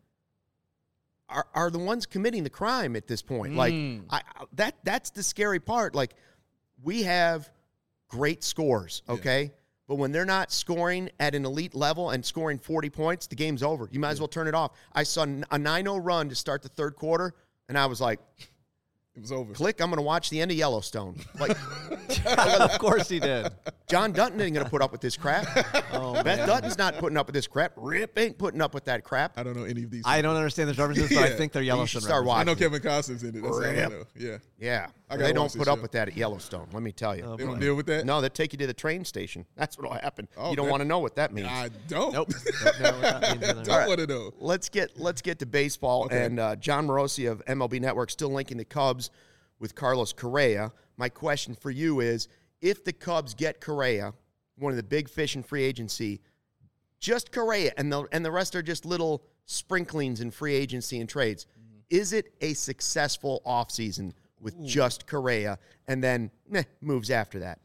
[SPEAKER 1] are the ones committing the crime at this point. Like, that's the scary part. Like, we have great scores, okay? Yeah. But when they're not scoring at an elite level and scoring 40 points, the game's over. You might as well turn it off. I saw a 9-0 run to start the third quarter, and I was like,
[SPEAKER 2] it was over.
[SPEAKER 1] Click, I'm going to watch the end of Yellowstone. Like,
[SPEAKER 3] of course he did.
[SPEAKER 1] John Dutton ain't going to put up with this crap. Beth Dutton's not putting up with this crap. Rip ain't putting up with that crap.
[SPEAKER 2] I don't know any of these.
[SPEAKER 3] I don't understand the references, but I think they're Yellowstone references.
[SPEAKER 2] I know Kevin Costner's in it. That's all I know.
[SPEAKER 1] Yeah. They don't put up with that at Yellowstone, let me tell you.
[SPEAKER 2] They don't deal with that?
[SPEAKER 1] No, they take you to the train station. That's what will happen. You don't want to know what that means.
[SPEAKER 2] I don't.
[SPEAKER 3] Nope. Don't know what that means either.
[SPEAKER 2] Don't want to know.
[SPEAKER 1] Let's get to baseball. Okay. And John Morosi of MLB Network still linking the Cubs with Carlos Correa. My question for you is, if the Cubs get Correa, one of the big fish in free agency, just Correa, and the rest are just little sprinklings in free agency and trades, is it a successful offseason with just Correa and then moves after that?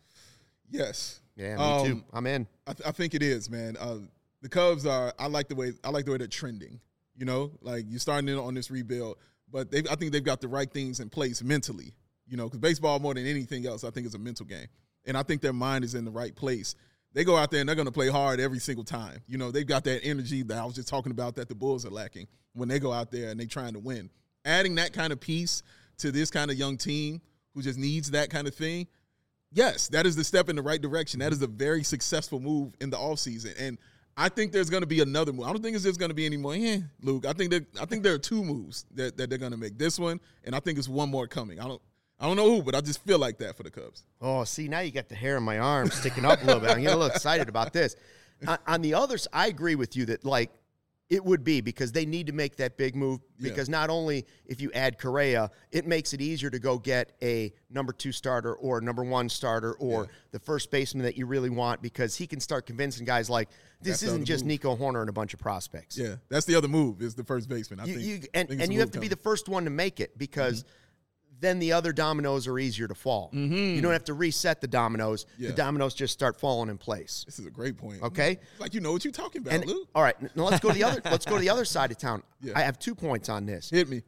[SPEAKER 2] Yes.
[SPEAKER 1] Yeah, me too. I'm in.
[SPEAKER 2] I think it is, man. The Cubs I like the way they're trending. Like, you're starting in on this rebuild. But I think they've got the right things in place mentally, because baseball, more than anything else, I think is a mental game. And I think their mind is in the right place. They go out there and they're going to play hard every single time. They've got that energy that I was just talking about that the Bulls are lacking when they go out there and they're trying to win. Adding that kind of piece to this kind of young team who just needs that kind of thing, yes, that is the step in the right direction. That is a very successful move in the offseason. And I think there's going to be another move. I don't think there's going to be any more. Luke, I think there are two moves that they're going to make. This one, and I think it's one more coming. I don't know who, but I just feel like that for the Cubs.
[SPEAKER 1] Oh, see, now you got the hair on my arm sticking up a little bit. I'm getting a little excited about this. On the other side, I agree with you that, like, it would be because they need to make that big move because not only if you add Correa, it makes it easier to go get a number 2 starter or number 1 starter or the first baseman that you really want because he can start convincing guys like, this isn't just Nico Horner and a bunch of prospects.
[SPEAKER 2] Yeah, that's the other move is the first baseman. I think
[SPEAKER 1] you have to be the first one to make it because then the other dominoes are easier to fall. You don't have to reset the dominoes. The dominoes just start falling in place.
[SPEAKER 2] This is a great point.
[SPEAKER 1] Okay?
[SPEAKER 2] Like, you know what you're talking about, Luke.
[SPEAKER 1] All right, now let's go to the other side of town. I have 2 points on this.
[SPEAKER 2] Hit me.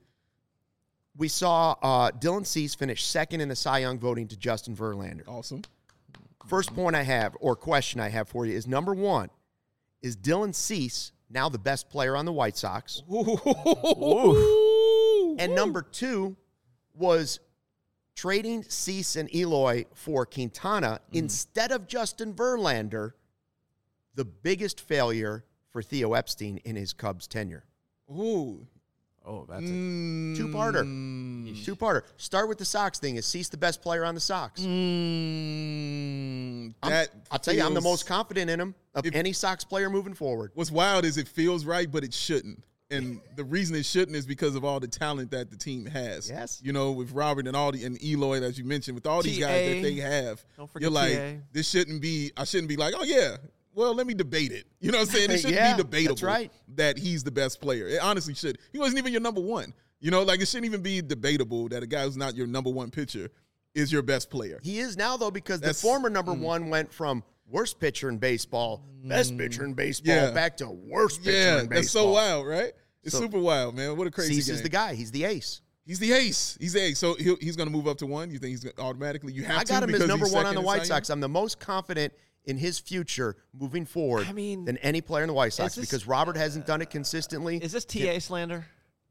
[SPEAKER 1] We saw Dylan Cease finish second in the Cy Young voting to Justin Verlander.
[SPEAKER 2] Awesome.
[SPEAKER 1] First point I have, or question I have for you, is number 1, is Dylan Cease now the best player on the White Sox? And number 2, was trading Cease and Eloy for Quintana instead of Justin Verlander the biggest failure for Theo Epstein in his Cubs tenure?
[SPEAKER 3] Oh, that's a
[SPEAKER 1] two-parter. Two-parter. Start with the Sox thing. Is Cease the best player on the Sox?
[SPEAKER 2] That
[SPEAKER 1] I'll tell you, I'm the most confident in him. of any Sox player moving forward.
[SPEAKER 2] What's wild is it feels right, but it shouldn't. And the reason it shouldn't is because of all the talent that the team has.
[SPEAKER 1] Yes.
[SPEAKER 2] You know, with Robert and and Eloy, as you mentioned, with all these guys that they have, you're like, this shouldn't be, I shouldn't be like, oh, yeah, well, let me debate it. You know what I'm saying? It shouldn't be debatable that he's the best player. It honestly should. He wasn't even your number one. You know, like it shouldn't even be debatable that a guy who's not your number one pitcher is your best player.
[SPEAKER 1] He is now, though, because the former number one went from worst pitcher in baseball, best pitcher in baseball, back to worst pitcher in baseball.
[SPEAKER 2] That's so wild, right? It's super wild, man. What a crazy
[SPEAKER 1] Cease
[SPEAKER 2] game.
[SPEAKER 1] is the guy. He's the ace.
[SPEAKER 2] He's the ace. He's the ace. So he's going to move up to one? You think he's going to automatically? You have
[SPEAKER 1] I
[SPEAKER 2] to
[SPEAKER 1] got him as number one on the White
[SPEAKER 2] Sox.
[SPEAKER 1] Sox. I'm the most confident in his future moving forward than any player in the White Sox because Robert hasn't done it consistently.
[SPEAKER 3] Is this TA slander?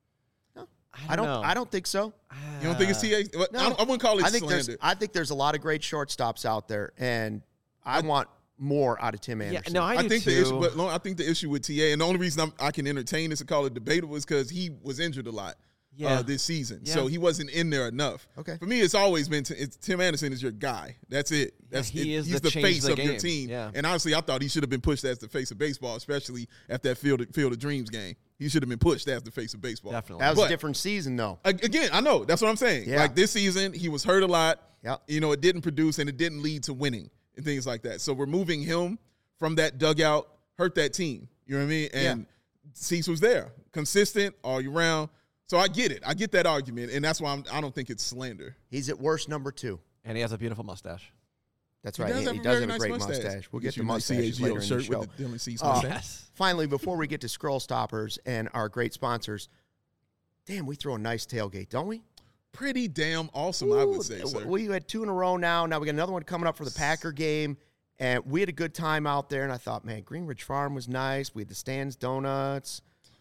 [SPEAKER 1] No.
[SPEAKER 3] I don't know.
[SPEAKER 1] I don't think so.
[SPEAKER 2] You don't think it's TA?
[SPEAKER 1] No.
[SPEAKER 2] I wouldn't call it slander.
[SPEAKER 1] I think there's a lot of great shortstops out there, and I want more out of Tim Anderson.
[SPEAKER 3] Yeah, no, I think
[SPEAKER 2] the issue, but I think the issue with TA, and the only reason I can entertain this and call it debatable is because he was injured a lot this season, so he wasn't in there enough.
[SPEAKER 1] Okay,
[SPEAKER 2] for me, it's always been Tim Anderson is your guy. That's it. He's the face of your team.
[SPEAKER 3] Yeah.
[SPEAKER 2] And honestly, I thought he should have been pushed as the face of baseball, especially at that Field of Dreams game. He should have been pushed as the face of baseball.
[SPEAKER 3] Definitely,
[SPEAKER 1] that was a different season, though.
[SPEAKER 2] Again, I know that's what I'm saying.
[SPEAKER 1] Yeah.
[SPEAKER 2] Like this season, he was hurt a lot.
[SPEAKER 1] Yeah,
[SPEAKER 2] you know, it didn't produce and it didn't lead to winning and things like that. So removing him from that dugout hurt that team. You know what I mean? And Cease was there, consistent all year round. So I get it. I get that argument, and that's why I don't think it's slander.
[SPEAKER 1] He's at worst number two.
[SPEAKER 3] And he has a beautiful mustache.
[SPEAKER 1] That's right. He does have a great mustache. We'll get to mustaches later in the show.
[SPEAKER 2] With the Dylan Cease mustache.
[SPEAKER 1] Finally, before we get to Scroll Stoppers and our great sponsors, damn, we throw a nice tailgate, don't we?
[SPEAKER 2] Pretty damn awesome, I would say, sir.
[SPEAKER 1] We had 2 in a row now. Now we got another one coming up for the Packer game. And we had a good time out there, and I thought, man, Greenridge Farm was nice. We had the Stan's Donuts.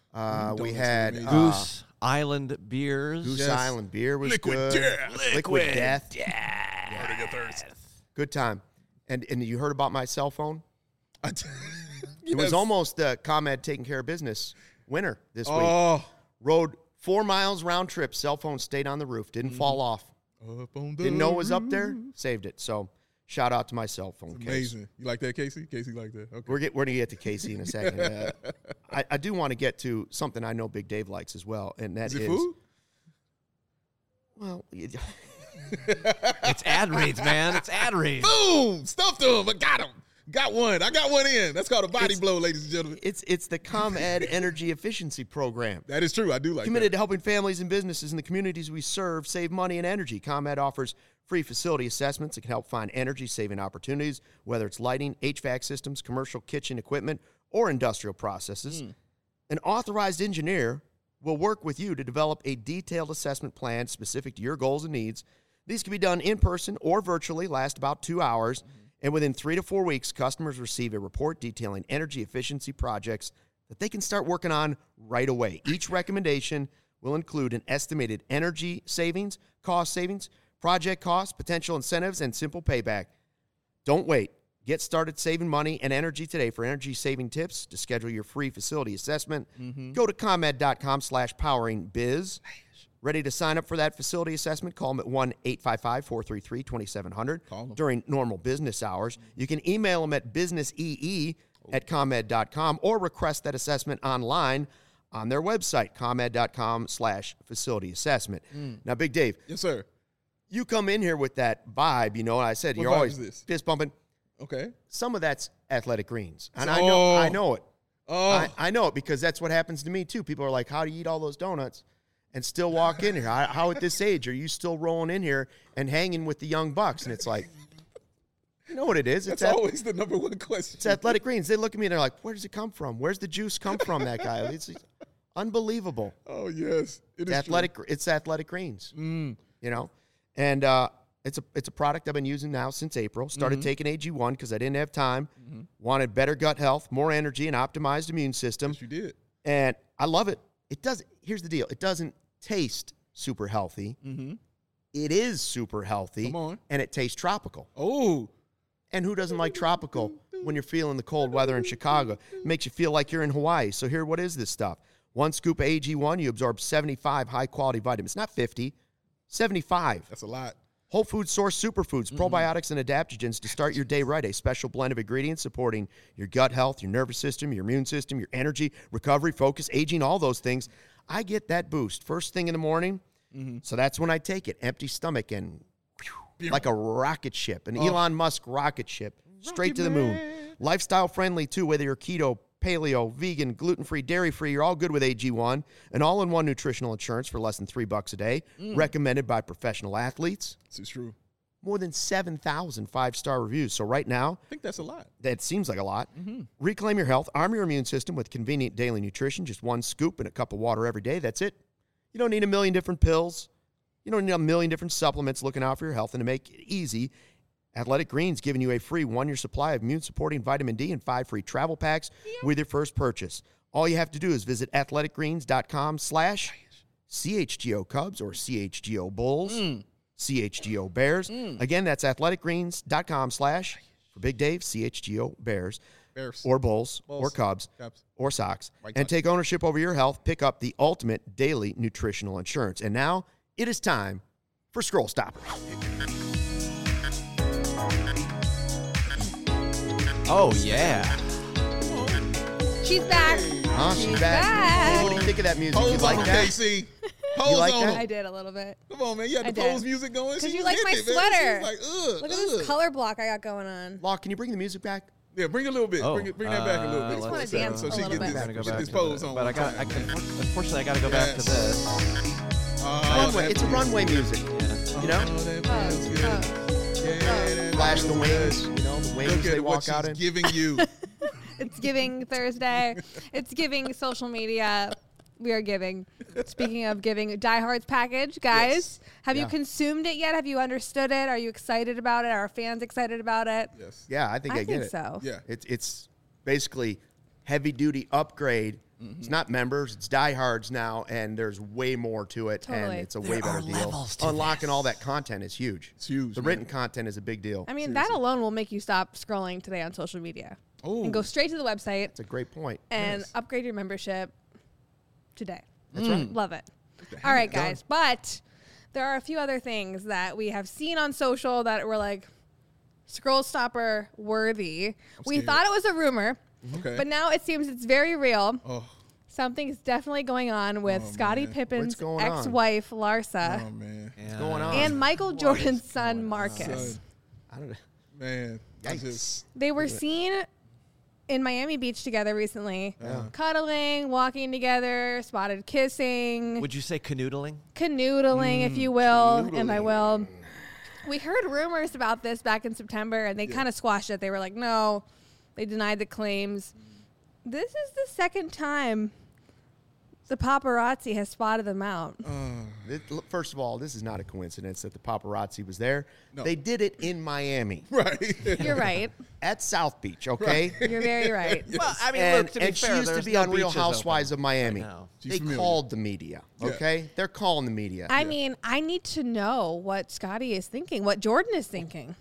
[SPEAKER 1] We had
[SPEAKER 3] Goose Island beers.
[SPEAKER 1] Goose Island beer was
[SPEAKER 2] Liquid
[SPEAKER 1] good.
[SPEAKER 2] Death.
[SPEAKER 1] Liquid Death.
[SPEAKER 2] Hurting your thirst.
[SPEAKER 1] Good time. And you heard about my cell phone?
[SPEAKER 2] It
[SPEAKER 1] was almost ComEd taking care of business winner this week. Rode 4 miles round trip. Cell phone stayed on the roof. Didn't fall off. Didn't know it was up there. Saved it. So shout out to my cell phone.
[SPEAKER 2] It's amazing. You like that, Casey? Casey like that? Okay.
[SPEAKER 1] We're going to get to Casey in a second. I do want to get to something I know Big Dave likes as well, and that is
[SPEAKER 2] food?
[SPEAKER 1] Well,
[SPEAKER 3] it's ad reads, man. It's ad reads.
[SPEAKER 2] Boom! Stuffed him. I got him. Got one. I got one in. That's called a body blow, ladies and gentlemen.
[SPEAKER 1] It's the ComEd Energy Efficiency Program.
[SPEAKER 2] That is true. I do like
[SPEAKER 1] Committed to helping families and businesses in the communities we serve save money and energy. ComEd offers free facility assessments that can help find energy-saving opportunities, whether it's lighting, HVAC systems, commercial kitchen equipment, or industrial processes. An authorized engineer will work with you to develop a detailed assessment plan specific to your goals and needs. These can be done in person or virtually, last about 2 hours. And within 3 to 4 weeks, customers receive a report detailing energy efficiency projects that they can start working on right away. Each recommendation will include an estimated energy savings, cost savings, project costs, potential incentives, and simple payback. Don't wait. Get started saving money and energy today. For energy-saving tips, to schedule your free facility assessment, go to ComEd.com/poweringbiz. Ready to sign up for that facility assessment? Call them at 1-855-433-2700 during normal business hours. You can email them at businessee@comed.com or request that assessment online on their website, comed.com/facility assessment. Now, Big Dave.
[SPEAKER 2] Yes, sir.
[SPEAKER 1] You come in here with that vibe, and I said you're always fist bumping.
[SPEAKER 2] Okay.
[SPEAKER 1] Some of that's Athletic Greens. And I know it. I know it because that's what happens to me, too. People are like, how do you eat all those donuts and still walk in here? How at this age are you still rolling in here and hanging with the young bucks? And it's like, you know what it is?
[SPEAKER 2] That's always the number one question.
[SPEAKER 1] It's Athletic Greens. They look at me and they're like, where does it come from? Where's the juice come from, that guy? It's unbelievable.
[SPEAKER 2] Oh, yes.
[SPEAKER 1] It's Athletic Greens, And it's a product I've been using now since April. Started taking AG1 because I didn't have time. Wanted better gut health, more energy, and optimized immune system.
[SPEAKER 2] Yes, you did.
[SPEAKER 1] And I love it. Here's the deal. It doesn't taste super healthy. It is super healthy.
[SPEAKER 2] Come on.
[SPEAKER 1] And it tastes tropical.
[SPEAKER 2] Oh.
[SPEAKER 1] And who doesn't like tropical when you're feeling the cold weather in Chicago? It makes you feel like you're in Hawaii. So here, what is this stuff? 1 scoop of AG1, you absorb 75 high-quality vitamins. Not 50, 75.
[SPEAKER 2] That's a lot.
[SPEAKER 1] Whole Food Source Superfoods, probiotics and adaptogens to start your day right. A special blend of ingredients supporting your gut health, your nervous system, your immune system, your energy, recovery, focus, aging, all those things. I get that boost first thing in the morning. So that's when I take it. Empty stomach and like a rocket ship, an Elon Musk rocket ship, straight to the moon. Lifestyle friendly too, whether you're keto, paleo, vegan, gluten-free, dairy-free, you're all good with AG1, an all-in-one nutritional insurance for less than $3 a day, recommended by professional athletes.
[SPEAKER 2] This is true.
[SPEAKER 1] More than 7,000 five-star reviews. So right now,
[SPEAKER 2] I think that's a lot.
[SPEAKER 1] that seems like a lot. Reclaim your health, arm your immune system with convenient daily nutrition, just one scoop and a cup of water every day. That's it. You don't need a million different pills. You don't need a million different supplements looking out for your health. And to make it easy, Athletic Greens giving you a free 1-year supply of immune-supporting vitamin D and 5 free travel packs with your first purchase. All you have to do is visit athleticgreens.com/CHGO Cubs or CHGO Bulls, CHGO Bears. Again, that's athleticgreens.com/ for Big Dave, CHGO Bears, or Bulls, or Cubs, or Sox. And take ownership over your health. Pick up the ultimate daily nutritional insurance. And now it is time for Scroll Stoppers.
[SPEAKER 3] Oh, yeah.
[SPEAKER 4] She's back.
[SPEAKER 1] She's back. What do you think of that music? You
[SPEAKER 2] Pose
[SPEAKER 1] like
[SPEAKER 2] on
[SPEAKER 1] that?
[SPEAKER 2] KC.
[SPEAKER 1] You
[SPEAKER 2] Pose
[SPEAKER 1] like
[SPEAKER 2] on
[SPEAKER 1] that?
[SPEAKER 2] him.
[SPEAKER 4] I did a little bit.
[SPEAKER 2] Come on, man. You had
[SPEAKER 4] I
[SPEAKER 2] the
[SPEAKER 4] did.
[SPEAKER 2] pose music going.
[SPEAKER 4] Because
[SPEAKER 2] She
[SPEAKER 4] you
[SPEAKER 2] was
[SPEAKER 4] like my
[SPEAKER 2] hitting it, man.
[SPEAKER 4] sweater.
[SPEAKER 2] She was like,
[SPEAKER 4] Look at this color block I got going on.
[SPEAKER 1] Law, can you bring the music back?
[SPEAKER 2] Yeah, bring a little bit.
[SPEAKER 3] Oh,
[SPEAKER 2] bring that back a little bit.
[SPEAKER 4] just wanna
[SPEAKER 3] let's
[SPEAKER 4] dance
[SPEAKER 2] so
[SPEAKER 4] a
[SPEAKER 2] she
[SPEAKER 4] little
[SPEAKER 2] get
[SPEAKER 4] bit.
[SPEAKER 2] this, get this pose on.
[SPEAKER 3] But unfortunately, I got to go back to this.
[SPEAKER 1] Runway. It's a runway music. You know? Flash the wings. You know, the wings
[SPEAKER 2] Look
[SPEAKER 1] they
[SPEAKER 2] at what
[SPEAKER 1] walk out in.
[SPEAKER 2] she's giving you.
[SPEAKER 4] It's giving Thursday. It's giving social media. We are giving. Speaking of giving, Die Hard's package, guys. Have you consumed it yet? Have you understood it? Are you excited about it? Are fans excited about it?
[SPEAKER 2] Yes.
[SPEAKER 1] Yeah, I think I get
[SPEAKER 4] think
[SPEAKER 1] it.
[SPEAKER 4] so.
[SPEAKER 2] Yeah.
[SPEAKER 1] It's basically heavy-duty upgrade. It's not members. It's diehards now, and there's way more to it, and
[SPEAKER 4] Totally.
[SPEAKER 1] it's a way better
[SPEAKER 3] are
[SPEAKER 1] deal.
[SPEAKER 3] levels to
[SPEAKER 1] Unlocking all that content is huge.
[SPEAKER 2] It's huge,
[SPEAKER 1] The
[SPEAKER 2] man.
[SPEAKER 1] written content is a big deal.
[SPEAKER 4] I mean, that alone will make you stop scrolling today on social media and go straight to the website
[SPEAKER 1] It's a great point.
[SPEAKER 4] and upgrade your membership today.
[SPEAKER 1] That's right.
[SPEAKER 4] Love it. All right, guys. But there are a few other things that we have seen on social that were like scroll stopper worthy. We
[SPEAKER 2] scared.
[SPEAKER 4] thought it was a rumor,
[SPEAKER 2] Okay.
[SPEAKER 4] but now it seems it's very real.
[SPEAKER 2] Oh,
[SPEAKER 4] Something's definitely going on with Scottie
[SPEAKER 2] man.
[SPEAKER 4] Pippen's
[SPEAKER 1] What's going on?
[SPEAKER 4] ex-wife, Larsa,
[SPEAKER 2] oh man.
[SPEAKER 1] What's going on?
[SPEAKER 4] and Michael Jordan's son, Marcus.
[SPEAKER 2] Son,
[SPEAKER 1] I don't know.
[SPEAKER 2] man. I
[SPEAKER 1] Yikes.
[SPEAKER 2] just
[SPEAKER 4] They were seen in Miami Beach together recently, cuddling, walking together, spotted kissing,
[SPEAKER 3] Would you say canoodling?
[SPEAKER 4] canoodling, if you will, and I
[SPEAKER 2] canoodling.
[SPEAKER 4] will. We heard rumors about this back in September, and they kind of squashed it. They were like, no, they denied the claims. This is the second time the paparazzi has spotted them out.
[SPEAKER 1] First of all, this is not a coincidence that the paparazzi was there.
[SPEAKER 2] No.
[SPEAKER 1] They did it in Miami
[SPEAKER 2] right.
[SPEAKER 4] You're right.
[SPEAKER 1] at South Beach, okay?
[SPEAKER 4] You're very right.
[SPEAKER 3] Well, I mean,
[SPEAKER 1] And,
[SPEAKER 3] look, to be
[SPEAKER 1] and
[SPEAKER 3] fair,
[SPEAKER 1] she used to
[SPEAKER 3] there's
[SPEAKER 1] be
[SPEAKER 3] no
[SPEAKER 1] on Real
[SPEAKER 3] beaches
[SPEAKER 1] Housewives
[SPEAKER 3] open
[SPEAKER 1] of Miami.
[SPEAKER 3] right now.
[SPEAKER 2] She's
[SPEAKER 1] They
[SPEAKER 2] familiar.
[SPEAKER 1] called the media,
[SPEAKER 2] Yeah.
[SPEAKER 1] okay? They're calling the media.
[SPEAKER 4] I mean, I need to know what Scottie is thinking, what Jordan is thinking.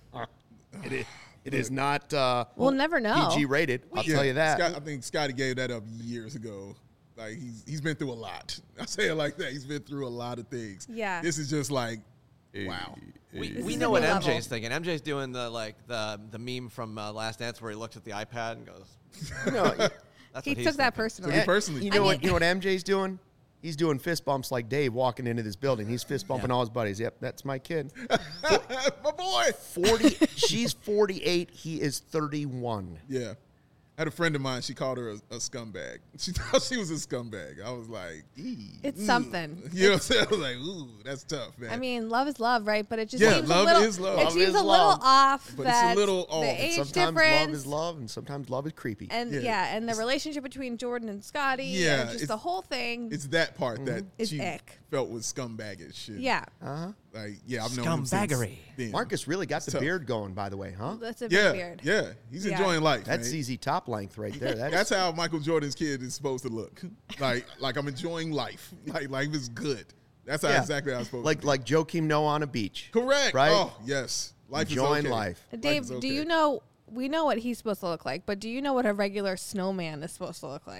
[SPEAKER 1] It is not
[SPEAKER 4] We'll never know.
[SPEAKER 1] PG rated. I'll tell you that.
[SPEAKER 2] I think Scotty gave that up years ago. Like he's been through a lot. I say it like that. He's been through a lot of things.
[SPEAKER 4] Yeah.
[SPEAKER 2] This is just like, wow.
[SPEAKER 3] We
[SPEAKER 4] is
[SPEAKER 3] know
[SPEAKER 4] a
[SPEAKER 3] what
[SPEAKER 4] new
[SPEAKER 3] MJ's
[SPEAKER 4] level.
[SPEAKER 3] thinking. MJ's doing the meme from Last Dance where he looks at the iPad and goes,
[SPEAKER 1] No,
[SPEAKER 3] "That's
[SPEAKER 4] He
[SPEAKER 3] what he's
[SPEAKER 4] took that
[SPEAKER 3] thinking."
[SPEAKER 4] personally.
[SPEAKER 2] Me personally.
[SPEAKER 1] You know
[SPEAKER 4] I
[SPEAKER 1] what?
[SPEAKER 4] mean-
[SPEAKER 1] You know what MJ's doing? He's doing fist bumps like Dave walking into this building. He's fist bumping all his buddies. Yep, that's my kid.
[SPEAKER 2] My boy.
[SPEAKER 1] 40. She's 48. He is 31.
[SPEAKER 2] Yeah. I had a friend of mine. She called her a scumbag. She thought she was a scumbag. I was like,
[SPEAKER 4] It's something.
[SPEAKER 2] you know what I'm saying? I was like, ooh, that's tough, man.
[SPEAKER 4] I mean, love is love, right? But it just
[SPEAKER 2] Yeah,
[SPEAKER 4] seems
[SPEAKER 2] love
[SPEAKER 4] a little.
[SPEAKER 2] is love.
[SPEAKER 4] It
[SPEAKER 2] Love
[SPEAKER 4] seems
[SPEAKER 1] is
[SPEAKER 4] a little
[SPEAKER 1] love.
[SPEAKER 4] off.
[SPEAKER 2] But it's a
[SPEAKER 4] that
[SPEAKER 2] little off.
[SPEAKER 4] The age
[SPEAKER 1] Sometimes
[SPEAKER 4] difference.
[SPEAKER 1] love is love, and sometimes love is creepy.
[SPEAKER 4] And
[SPEAKER 2] Yeah.
[SPEAKER 4] and the relationship between Jordan and Scottie.
[SPEAKER 2] Yeah,
[SPEAKER 4] and just the whole thing.
[SPEAKER 2] it's that part that
[SPEAKER 4] It's
[SPEAKER 2] she
[SPEAKER 4] ick.
[SPEAKER 2] felt was scumbagish shit.
[SPEAKER 4] Yeah,
[SPEAKER 2] Like, yeah, I've known him since
[SPEAKER 3] Scumbaggery.
[SPEAKER 2] then.
[SPEAKER 1] Marcus really got the
[SPEAKER 2] tough.
[SPEAKER 1] beard going, by the way, huh?
[SPEAKER 4] that's a
[SPEAKER 2] Yeah,
[SPEAKER 4] big beard.
[SPEAKER 2] yeah. He's
[SPEAKER 4] Yeah.
[SPEAKER 2] enjoying life.
[SPEAKER 1] That's
[SPEAKER 2] man.
[SPEAKER 1] ZZ Top length right there.
[SPEAKER 2] That's how Michael Jordan's kid is supposed to look. Like I'm enjoying life. Like life is good. That's how exactly how I'm supposed to.
[SPEAKER 1] like Joakim Noah on a beach.
[SPEAKER 2] Correct.
[SPEAKER 1] Right?
[SPEAKER 2] Oh, yes. Life
[SPEAKER 1] Enjoying
[SPEAKER 2] is okay.
[SPEAKER 1] life.
[SPEAKER 4] Dave,
[SPEAKER 2] is
[SPEAKER 4] do
[SPEAKER 2] okay.
[SPEAKER 4] you know? We know what he's supposed to look like, but do you know what a regular snowman is supposed to look like?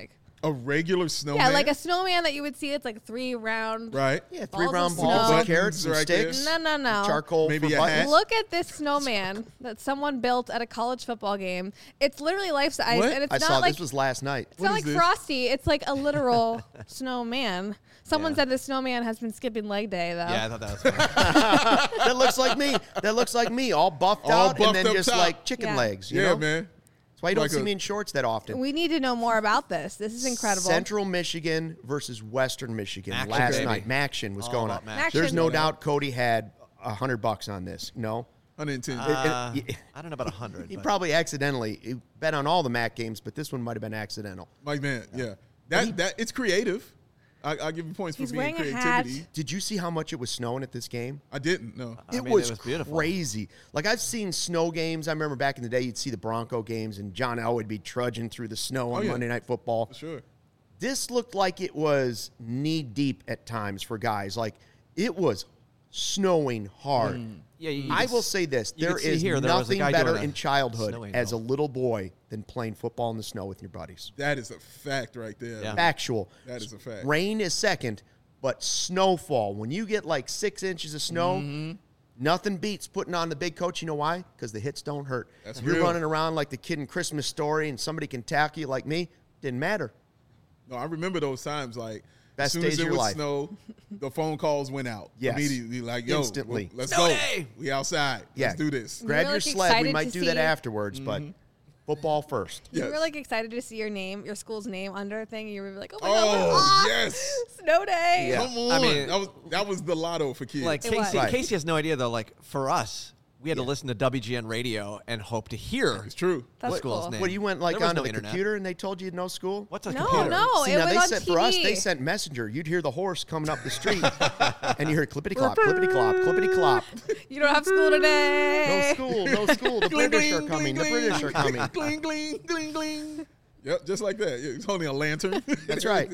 [SPEAKER 2] A regular snowman?
[SPEAKER 4] Yeah, like a snowman that you would see. It's like 3 round.
[SPEAKER 2] Right.
[SPEAKER 1] Yeah,
[SPEAKER 4] Balls
[SPEAKER 1] 3 round
[SPEAKER 4] of
[SPEAKER 1] balls
[SPEAKER 4] snow.
[SPEAKER 1] and carrots and
[SPEAKER 2] Right there.
[SPEAKER 1] sticks.
[SPEAKER 4] No.
[SPEAKER 1] Charcoal
[SPEAKER 2] Maybe
[SPEAKER 1] for
[SPEAKER 2] a
[SPEAKER 1] buttons.
[SPEAKER 2] hat.
[SPEAKER 4] Look at this snowman that someone built at a college football game. It's literally life size,
[SPEAKER 2] What?
[SPEAKER 4] and it's
[SPEAKER 1] I
[SPEAKER 4] not
[SPEAKER 1] saw
[SPEAKER 4] like
[SPEAKER 1] this was last night.
[SPEAKER 4] it's not
[SPEAKER 2] What
[SPEAKER 4] like
[SPEAKER 2] is this?
[SPEAKER 4] Frosty. It's like a literal snowman. Someone
[SPEAKER 3] Yeah.
[SPEAKER 4] said the snowman has been skipping leg day though.
[SPEAKER 3] Yeah, I thought that was funny.
[SPEAKER 1] That looks like me. That looks like me, all buffed
[SPEAKER 2] All
[SPEAKER 1] out
[SPEAKER 2] buffed
[SPEAKER 1] and then
[SPEAKER 2] up
[SPEAKER 1] just
[SPEAKER 2] top.
[SPEAKER 1] like chicken
[SPEAKER 4] Yeah.
[SPEAKER 1] legs. You
[SPEAKER 2] Yeah,
[SPEAKER 1] know?
[SPEAKER 2] man.
[SPEAKER 1] That's why you don't
[SPEAKER 2] Like
[SPEAKER 1] see
[SPEAKER 2] a-
[SPEAKER 1] me in shorts that often.
[SPEAKER 4] We need to know more about this. This is incredible.
[SPEAKER 1] Central Michigan versus Western Michigan
[SPEAKER 3] Action,
[SPEAKER 1] last
[SPEAKER 3] baby.
[SPEAKER 1] night. Maction was
[SPEAKER 3] All
[SPEAKER 1] going
[SPEAKER 3] about
[SPEAKER 1] on.
[SPEAKER 3] Maction.
[SPEAKER 1] There's no
[SPEAKER 4] Maction.
[SPEAKER 1] doubt Cody had $100 on this. No,
[SPEAKER 2] 110.
[SPEAKER 3] I don't know about 100.
[SPEAKER 1] he
[SPEAKER 3] but-
[SPEAKER 1] probably accidentally he bet on all the MAC games, but this one might have been accidental.
[SPEAKER 2] Mike, man, yeah. That it's creative. I'll give you points
[SPEAKER 4] He's
[SPEAKER 2] for being
[SPEAKER 4] wearing a hat.
[SPEAKER 2] creativity.
[SPEAKER 1] Did you see how much it was snowing at this game?
[SPEAKER 2] I didn't, no.
[SPEAKER 3] I
[SPEAKER 1] It
[SPEAKER 3] mean,
[SPEAKER 1] was
[SPEAKER 3] beautiful.
[SPEAKER 1] crazy. Like I've seen snow games. I remember back in the day, you'd see the Bronco games, and John L would be trudging through the snow on
[SPEAKER 2] yeah.
[SPEAKER 1] Monday Night Football.
[SPEAKER 2] For sure.
[SPEAKER 1] This looked like it was knee deep at times for guys. Like it was snowing hard.
[SPEAKER 3] Yeah, you
[SPEAKER 1] I
[SPEAKER 3] could
[SPEAKER 1] will
[SPEAKER 3] s-
[SPEAKER 1] say this:
[SPEAKER 3] you
[SPEAKER 1] there
[SPEAKER 3] could see
[SPEAKER 1] is
[SPEAKER 3] here, there was a
[SPEAKER 1] nothing
[SPEAKER 3] guy
[SPEAKER 1] better
[SPEAKER 3] doing a
[SPEAKER 1] in childhood
[SPEAKER 3] snow
[SPEAKER 1] as a
[SPEAKER 3] angel.
[SPEAKER 1] little boy than playing football in the snow with your buddies.
[SPEAKER 2] That is a fact right there.
[SPEAKER 3] Yeah.
[SPEAKER 1] Factual.
[SPEAKER 2] That is a fact.
[SPEAKER 1] Rain is second, but snowfall. When you get like 6 inches of snow,
[SPEAKER 2] Mm-hmm.
[SPEAKER 1] nothing beats putting on the big coat. You know why? Because the hits don't hurt.
[SPEAKER 2] That's
[SPEAKER 1] If you're
[SPEAKER 2] real.
[SPEAKER 1] running around like the kid in Christmas Story and somebody can tackle you like me, didn't matter.
[SPEAKER 2] No, I remember those times. Like,
[SPEAKER 1] Best
[SPEAKER 2] as soon
[SPEAKER 1] days
[SPEAKER 2] as
[SPEAKER 1] of
[SPEAKER 2] it
[SPEAKER 1] your
[SPEAKER 2] was
[SPEAKER 1] life.
[SPEAKER 2] snow, the phone calls went out.
[SPEAKER 1] Yes.
[SPEAKER 2] Immediately. Like, yo,
[SPEAKER 1] Instantly.
[SPEAKER 2] let's
[SPEAKER 3] Snow
[SPEAKER 2] go.
[SPEAKER 3] day.
[SPEAKER 2] We outside.
[SPEAKER 1] Yeah.
[SPEAKER 2] Let's do this.
[SPEAKER 1] Grab
[SPEAKER 4] were,
[SPEAKER 1] your
[SPEAKER 4] like,
[SPEAKER 1] sled. We
[SPEAKER 4] excited
[SPEAKER 1] might
[SPEAKER 4] to
[SPEAKER 1] do that
[SPEAKER 4] see-
[SPEAKER 1] afterwards, but football first.
[SPEAKER 4] You
[SPEAKER 2] Yes.
[SPEAKER 4] were like excited to see your name, your school's name under a thing. You were like, oh my god,
[SPEAKER 2] Oh,
[SPEAKER 4] we're off.
[SPEAKER 2] yes.
[SPEAKER 4] Snow day.
[SPEAKER 1] Yeah.
[SPEAKER 2] Come on.
[SPEAKER 3] I mean-
[SPEAKER 2] that was the lotto for kids.
[SPEAKER 3] Like
[SPEAKER 4] It was.
[SPEAKER 3] Casey,
[SPEAKER 1] Right.
[SPEAKER 3] Casey has no idea though. Like for us, we had to
[SPEAKER 1] Yeah.
[SPEAKER 3] listen to WGN radio and hope to hear
[SPEAKER 2] it's true.
[SPEAKER 4] That's
[SPEAKER 3] the school's
[SPEAKER 4] cool.
[SPEAKER 3] name.
[SPEAKER 1] What, you went like
[SPEAKER 3] There was
[SPEAKER 1] onto
[SPEAKER 3] no
[SPEAKER 1] the
[SPEAKER 3] internet.
[SPEAKER 1] computer and they told you no school?
[SPEAKER 3] What's a
[SPEAKER 4] No,
[SPEAKER 3] computer?
[SPEAKER 4] no.
[SPEAKER 1] See,
[SPEAKER 4] it
[SPEAKER 1] now
[SPEAKER 4] was
[SPEAKER 1] they
[SPEAKER 4] on
[SPEAKER 1] sent for us,
[SPEAKER 4] TV.
[SPEAKER 1] they sent Messenger. You'd hear the horse coming up the street, and you hear clippity clop, clippity clop, clippity clop.
[SPEAKER 4] You don't have school
[SPEAKER 1] No
[SPEAKER 4] today.
[SPEAKER 1] school, no school. The British are coming. The British are coming.
[SPEAKER 2] Gling, gling, gling, gling. Yep, just like that. It's only a lantern.
[SPEAKER 1] That's right.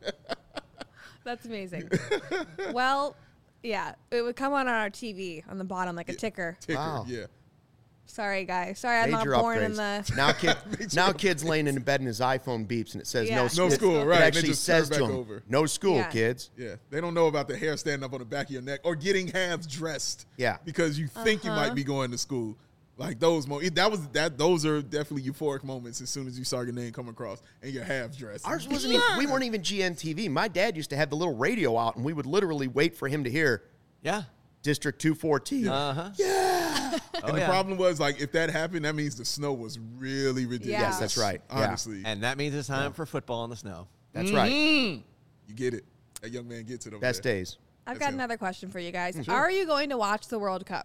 [SPEAKER 4] That's amazing. Well, yeah, it would come on our TV on the bottom like a ticker.
[SPEAKER 2] Ticker,
[SPEAKER 1] Wow.
[SPEAKER 2] yeah.
[SPEAKER 4] Sorry, guys. Sorry, I'm
[SPEAKER 1] Major
[SPEAKER 4] not born in
[SPEAKER 1] upgrades.
[SPEAKER 4] the.
[SPEAKER 1] Now kids laying in bed and his iPhone beeps and it says
[SPEAKER 4] Yeah.
[SPEAKER 1] no
[SPEAKER 4] No
[SPEAKER 1] school.
[SPEAKER 2] school, right,
[SPEAKER 1] It
[SPEAKER 2] and they
[SPEAKER 1] actually
[SPEAKER 2] just
[SPEAKER 1] says
[SPEAKER 2] turn
[SPEAKER 1] to
[SPEAKER 2] back
[SPEAKER 1] them,
[SPEAKER 2] over.
[SPEAKER 1] no school,
[SPEAKER 4] Yeah.
[SPEAKER 1] kids.
[SPEAKER 2] Yeah, they don't know about the hair standing up on the back of your neck or getting halves dressed.
[SPEAKER 1] Yeah.
[SPEAKER 2] because you think you might be going to school. Like those moments, those are definitely euphoric moments. As soon as you saw your name come across and you're half dressed.
[SPEAKER 1] Ours wasn't even, we weren't even GNTV. My dad used to have the little radio out and we would literally wait for him to hear
[SPEAKER 3] Yeah.
[SPEAKER 1] District 214.
[SPEAKER 3] Uh-huh.
[SPEAKER 2] and the problem was like if that happened, that means the snow was really ridiculous.
[SPEAKER 4] Yeah.
[SPEAKER 1] Yes, that's right. Yeah.
[SPEAKER 2] Honestly,
[SPEAKER 3] And that means it's time for football in the snow.
[SPEAKER 1] That's right.
[SPEAKER 2] you get it. That young man gets it over
[SPEAKER 1] Best
[SPEAKER 2] there.
[SPEAKER 1] days.
[SPEAKER 4] I've
[SPEAKER 2] That's
[SPEAKER 4] got
[SPEAKER 2] him.
[SPEAKER 4] another question for you guys. Are you going to watch the World Cup?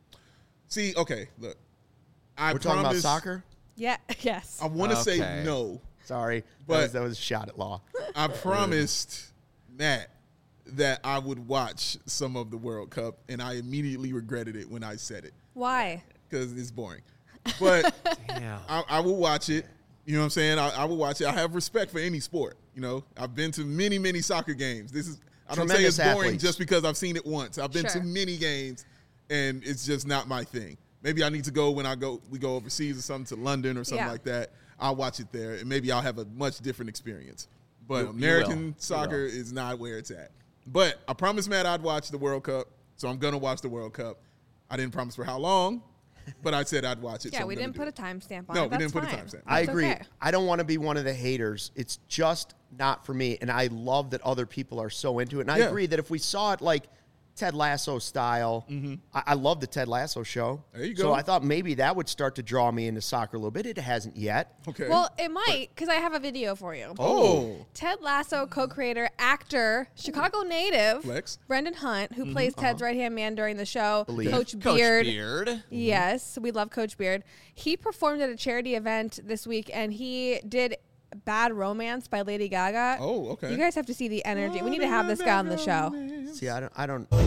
[SPEAKER 2] See, okay, look, I
[SPEAKER 1] We're talking about
[SPEAKER 2] promise-
[SPEAKER 1] soccer?
[SPEAKER 4] Yeah. Yes.
[SPEAKER 2] I want to say
[SPEAKER 3] Okay.
[SPEAKER 2] no.
[SPEAKER 1] Sorry.
[SPEAKER 2] But-
[SPEAKER 1] that was a shot at law.
[SPEAKER 2] I promised Matt that I would watch some of the World Cup, and I immediately regretted it when I said it
[SPEAKER 4] Why?
[SPEAKER 2] because it's boring. But
[SPEAKER 3] Yeah.
[SPEAKER 2] I will watch it. You know what I'm saying? I will watch it. I have respect for any sport. You know, I've been to many, many soccer games. I don't say it's
[SPEAKER 1] Tremendous
[SPEAKER 2] boring
[SPEAKER 1] athletes.
[SPEAKER 2] just because I've seen it once. I've been to
[SPEAKER 4] Sure.
[SPEAKER 2] many games, and it's just not my thing. Maybe I need to go when we go overseas or something to London or something
[SPEAKER 4] Yeah.
[SPEAKER 2] like that. I'll watch it there, and maybe I'll have a much different experience. But
[SPEAKER 3] You will.
[SPEAKER 2] American
[SPEAKER 3] You
[SPEAKER 2] soccer is not where it's at. But I promised Matt I'd watch the World Cup, so I'm going to watch the World Cup. I didn't promise for how long, but I said I'd watch it.
[SPEAKER 4] Yeah,
[SPEAKER 2] so I'm
[SPEAKER 4] we
[SPEAKER 2] gonna
[SPEAKER 4] didn't
[SPEAKER 2] do
[SPEAKER 4] put
[SPEAKER 2] it.
[SPEAKER 4] a timestamp on
[SPEAKER 2] No,
[SPEAKER 4] it.
[SPEAKER 2] we
[SPEAKER 4] That's
[SPEAKER 2] didn't put a
[SPEAKER 4] fine.
[SPEAKER 2] timestamp.
[SPEAKER 1] I
[SPEAKER 4] That's
[SPEAKER 1] agree.
[SPEAKER 4] okay.
[SPEAKER 1] I don't want to be one of the haters. It's just not for me. And I love that other people are so into it. And I
[SPEAKER 2] Yeah.
[SPEAKER 1] agree that if we saw it like Ted Lasso style, I love the Ted Lasso show.
[SPEAKER 2] There you
[SPEAKER 1] So
[SPEAKER 2] go.
[SPEAKER 1] I thought maybe that would start to draw me into soccer a little bit. It hasn't yet.
[SPEAKER 2] Okay.
[SPEAKER 4] Well, it might because I have a video for you.
[SPEAKER 2] oh.
[SPEAKER 4] Ted Lasso co-creator, actor, Chicago native,
[SPEAKER 2] Flex.
[SPEAKER 4] Brendan Hunt, who plays Ted's right-hand man during the show,
[SPEAKER 1] Believe.
[SPEAKER 4] Coach
[SPEAKER 3] Coach
[SPEAKER 4] Beard.
[SPEAKER 3] Beard.
[SPEAKER 4] Yes, we love Coach Beard. He performed at a charity event this week, and he did "Bad Romance" by Lady Gaga.
[SPEAKER 2] Oh, okay.
[SPEAKER 4] You guys have to see the energy. We need to have this guy on the show.
[SPEAKER 1] See, I don't know.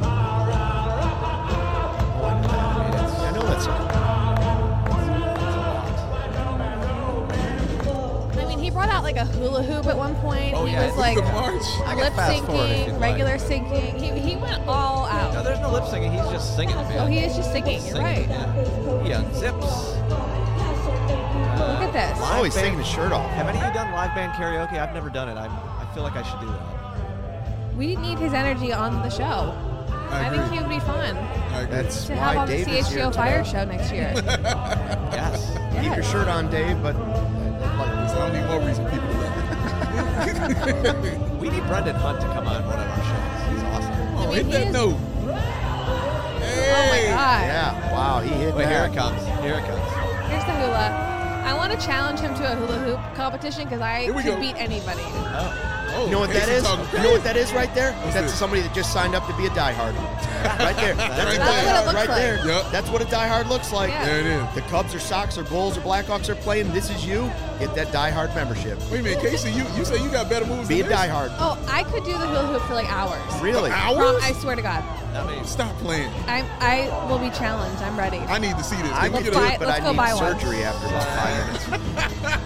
[SPEAKER 1] I know that song.
[SPEAKER 4] I mean, he brought out like a hula hoop at one point.
[SPEAKER 3] Oh,
[SPEAKER 4] he
[SPEAKER 3] yeah,
[SPEAKER 4] was
[SPEAKER 3] the
[SPEAKER 4] like
[SPEAKER 2] the march.
[SPEAKER 3] I
[SPEAKER 4] lip
[SPEAKER 3] can fast forward if you'd
[SPEAKER 4] syncing,
[SPEAKER 3] like.
[SPEAKER 4] regular syncing. He went all
[SPEAKER 3] No,
[SPEAKER 4] out.
[SPEAKER 3] there's no lip syncing. He's just singing. Man.
[SPEAKER 4] Oh, he is just singing. You're right.
[SPEAKER 3] Yeah. He unzips.
[SPEAKER 4] Look at this.
[SPEAKER 1] Oh, he's taking his shirt off.
[SPEAKER 3] Have any of you done live band karaoke? I've never done it. I feel like I should do that.
[SPEAKER 4] We need his energy on the show. I think he would be fun
[SPEAKER 2] I agree.
[SPEAKER 1] That's
[SPEAKER 4] to have
[SPEAKER 1] why
[SPEAKER 4] on the
[SPEAKER 1] Dave is here
[SPEAKER 4] CHGO Fire
[SPEAKER 1] today.
[SPEAKER 4] show next year.
[SPEAKER 3] Yes.
[SPEAKER 1] Keep your
[SPEAKER 4] Yes.
[SPEAKER 1] shirt on, Dave, but
[SPEAKER 2] So I don't need more reason people to love.
[SPEAKER 3] We need Brendan Hunt to come on one of our shows. He's awesome.
[SPEAKER 2] Oh,
[SPEAKER 4] mean,
[SPEAKER 2] hit
[SPEAKER 4] he
[SPEAKER 2] that
[SPEAKER 4] is-
[SPEAKER 2] note.
[SPEAKER 4] Oh my God.
[SPEAKER 1] yeah, wow, he hit
[SPEAKER 3] Wait,
[SPEAKER 1] that.
[SPEAKER 3] here it comes. Here it comes.
[SPEAKER 4] Here's the hula. I want to challenge him to a hula hoop competition because I
[SPEAKER 2] Here we
[SPEAKER 4] could
[SPEAKER 2] go.
[SPEAKER 4] beat anybody.
[SPEAKER 2] Oh,
[SPEAKER 1] You know what that
[SPEAKER 2] Casey
[SPEAKER 1] is?
[SPEAKER 2] talking
[SPEAKER 1] You know what
[SPEAKER 2] crazy.
[SPEAKER 1] that is right there? That's
[SPEAKER 2] this?
[SPEAKER 1] somebody that just signed up to be a diehard. Right there. That's
[SPEAKER 2] Right
[SPEAKER 1] a
[SPEAKER 2] there.
[SPEAKER 1] diehard
[SPEAKER 4] That's what it looks
[SPEAKER 1] right
[SPEAKER 4] like.
[SPEAKER 1] there.
[SPEAKER 2] Yep.
[SPEAKER 1] That's what a diehard looks like.
[SPEAKER 4] Yeah.
[SPEAKER 2] There it is.
[SPEAKER 1] The Cubs or Sox or Bulls or Blackhawks are playing. This is you. Get that diehard membership.
[SPEAKER 2] Wait a minute, Casey, you say you got better moves
[SPEAKER 1] Be a
[SPEAKER 2] than this?
[SPEAKER 1] diehard.
[SPEAKER 4] Oh, I could do the hula hoop for like hours.
[SPEAKER 1] Really?
[SPEAKER 2] Hours?
[SPEAKER 4] I swear to God.
[SPEAKER 3] I mean,
[SPEAKER 2] Stop playing.
[SPEAKER 4] I will be challenged. I'm ready.
[SPEAKER 2] I need to see this.
[SPEAKER 1] I
[SPEAKER 2] Can we
[SPEAKER 1] can
[SPEAKER 2] get
[SPEAKER 1] do
[SPEAKER 2] a-
[SPEAKER 1] it, but
[SPEAKER 4] let's
[SPEAKER 1] I
[SPEAKER 4] go buy
[SPEAKER 1] need
[SPEAKER 4] one.
[SPEAKER 1] surgery after about 5 minutes.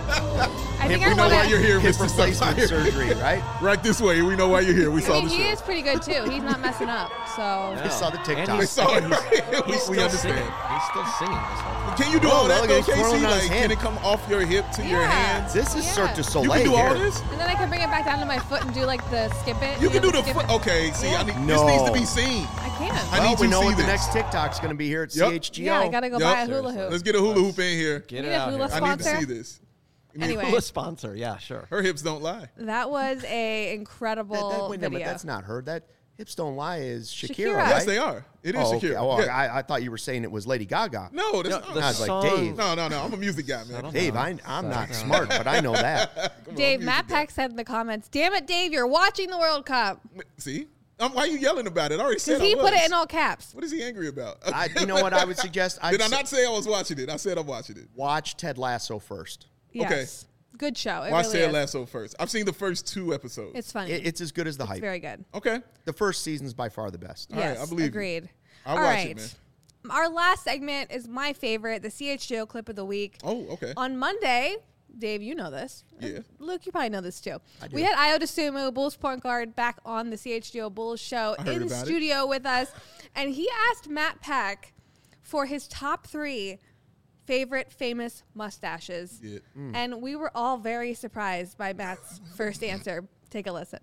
[SPEAKER 4] I think
[SPEAKER 2] we
[SPEAKER 4] I
[SPEAKER 2] know
[SPEAKER 4] want
[SPEAKER 2] why you're
[SPEAKER 4] to.
[SPEAKER 2] here,
[SPEAKER 1] Hip
[SPEAKER 2] Mr.
[SPEAKER 1] replacement
[SPEAKER 2] Sapphire.
[SPEAKER 1] surgery, right?
[SPEAKER 2] Right this way. We know why you're here. We
[SPEAKER 4] I
[SPEAKER 2] saw
[SPEAKER 4] mean,
[SPEAKER 2] the
[SPEAKER 4] he
[SPEAKER 2] show.
[SPEAKER 4] is pretty good too. He's not messing up. So
[SPEAKER 1] I saw the
[SPEAKER 3] And
[SPEAKER 1] TikTok.
[SPEAKER 2] We
[SPEAKER 3] he's,
[SPEAKER 2] saw it.
[SPEAKER 3] and he's,
[SPEAKER 2] Right?
[SPEAKER 3] he's
[SPEAKER 2] We
[SPEAKER 3] still
[SPEAKER 2] understand.
[SPEAKER 3] singing. He's still singing this whole time.
[SPEAKER 2] Can you do
[SPEAKER 1] Oh,
[SPEAKER 2] all that
[SPEAKER 1] look,
[SPEAKER 2] though,
[SPEAKER 1] he's twirling
[SPEAKER 2] Casey?
[SPEAKER 1] on his
[SPEAKER 2] Like,
[SPEAKER 1] hand.
[SPEAKER 2] can it come off your hip to your
[SPEAKER 4] Yeah.
[SPEAKER 2] hands?
[SPEAKER 1] This is
[SPEAKER 4] Yeah.
[SPEAKER 1] Cirque du Soleil
[SPEAKER 2] You can do all
[SPEAKER 1] here.
[SPEAKER 2] this?
[SPEAKER 4] and then I can bring it back down to my foot and do like the skip it.
[SPEAKER 2] You can
[SPEAKER 4] know,
[SPEAKER 2] do the
[SPEAKER 4] skip
[SPEAKER 2] foot.
[SPEAKER 4] it.
[SPEAKER 2] Okay, see,
[SPEAKER 4] Yeah.
[SPEAKER 2] this
[SPEAKER 1] No.
[SPEAKER 2] needs to be seen.
[SPEAKER 4] I can.
[SPEAKER 2] I
[SPEAKER 1] Well,
[SPEAKER 2] need
[SPEAKER 1] we
[SPEAKER 2] to
[SPEAKER 1] know
[SPEAKER 2] see
[SPEAKER 1] what the
[SPEAKER 2] this.
[SPEAKER 1] next TikTok's going to be here at
[SPEAKER 2] Yep.
[SPEAKER 1] CHGO.
[SPEAKER 4] Yeah, I gotta go
[SPEAKER 2] Yep.
[SPEAKER 4] buy a hula hoop.
[SPEAKER 2] Let's get a hula hoop in here.
[SPEAKER 3] Get
[SPEAKER 4] Need
[SPEAKER 3] it
[SPEAKER 4] a
[SPEAKER 3] out
[SPEAKER 4] hula
[SPEAKER 3] here.
[SPEAKER 2] I need to
[SPEAKER 4] sponsor?
[SPEAKER 2] see this.
[SPEAKER 4] Anyway,
[SPEAKER 3] Hula sponsor. Yeah, sure.
[SPEAKER 2] Her hips don't lie.
[SPEAKER 4] that was a incredible
[SPEAKER 1] Wait, no, but
[SPEAKER 4] video.
[SPEAKER 1] that's not her. That Hips Don't Lie is Shakira,
[SPEAKER 4] Shakira.
[SPEAKER 1] right?
[SPEAKER 2] Yes, they are. It is
[SPEAKER 1] Oh,
[SPEAKER 2] Shakira.
[SPEAKER 1] okay. Oh,
[SPEAKER 2] Yeah.
[SPEAKER 1] I thought you were saying it was Lady Gaga.
[SPEAKER 2] No, that's
[SPEAKER 3] No,
[SPEAKER 2] not.
[SPEAKER 3] the
[SPEAKER 1] I was like,
[SPEAKER 3] song-
[SPEAKER 1] Dave.
[SPEAKER 2] No, I'm a music guy, man.
[SPEAKER 1] Dave, I'm not smart, but I know that.
[SPEAKER 2] Come on,
[SPEAKER 4] Dave,
[SPEAKER 2] music
[SPEAKER 4] Matt
[SPEAKER 2] guy.
[SPEAKER 4] Peck said in the comments, "Damn it, Dave, you're watching the World Cup."
[SPEAKER 2] See? Why are you yelling about it? I already said
[SPEAKER 4] Because he
[SPEAKER 2] I
[SPEAKER 4] put it
[SPEAKER 2] was.
[SPEAKER 4] in all caps.
[SPEAKER 2] What is he angry about?
[SPEAKER 1] You know what I would suggest?
[SPEAKER 2] Did I not say I was watching it? I said I'm watching it.
[SPEAKER 1] Watch Ted Lasso first.
[SPEAKER 4] Yes. Good show. It
[SPEAKER 2] Watch
[SPEAKER 4] really
[SPEAKER 2] Ted
[SPEAKER 4] is.
[SPEAKER 2] Lasso first. I've seen the first 2 episodes.
[SPEAKER 4] It's funny.
[SPEAKER 1] It's as good as the hype.
[SPEAKER 4] very good.
[SPEAKER 2] Okay.
[SPEAKER 1] The first season's by far the best.
[SPEAKER 2] All right,
[SPEAKER 4] Yes,
[SPEAKER 2] I believe you.
[SPEAKER 4] agreed.
[SPEAKER 2] I'll
[SPEAKER 4] All
[SPEAKER 2] watch
[SPEAKER 4] right.
[SPEAKER 2] it, man.
[SPEAKER 4] Our last segment is my favorite, the CHGO clip of the week.
[SPEAKER 2] Oh, okay.
[SPEAKER 4] On Monday, Dave, you know this.
[SPEAKER 2] Yeah.
[SPEAKER 4] Luke, you probably know this too.
[SPEAKER 1] do.
[SPEAKER 4] We had Io DeSumo, Bulls point guard, back on the CHGO Bulls show
[SPEAKER 2] I heard
[SPEAKER 4] in
[SPEAKER 2] about it.
[SPEAKER 4] studio with us. And he asked Matt Peck for his top 3 favorite famous mustaches.
[SPEAKER 2] Yeah.
[SPEAKER 4] And we were all very surprised by Matt's first answer. Take a listen.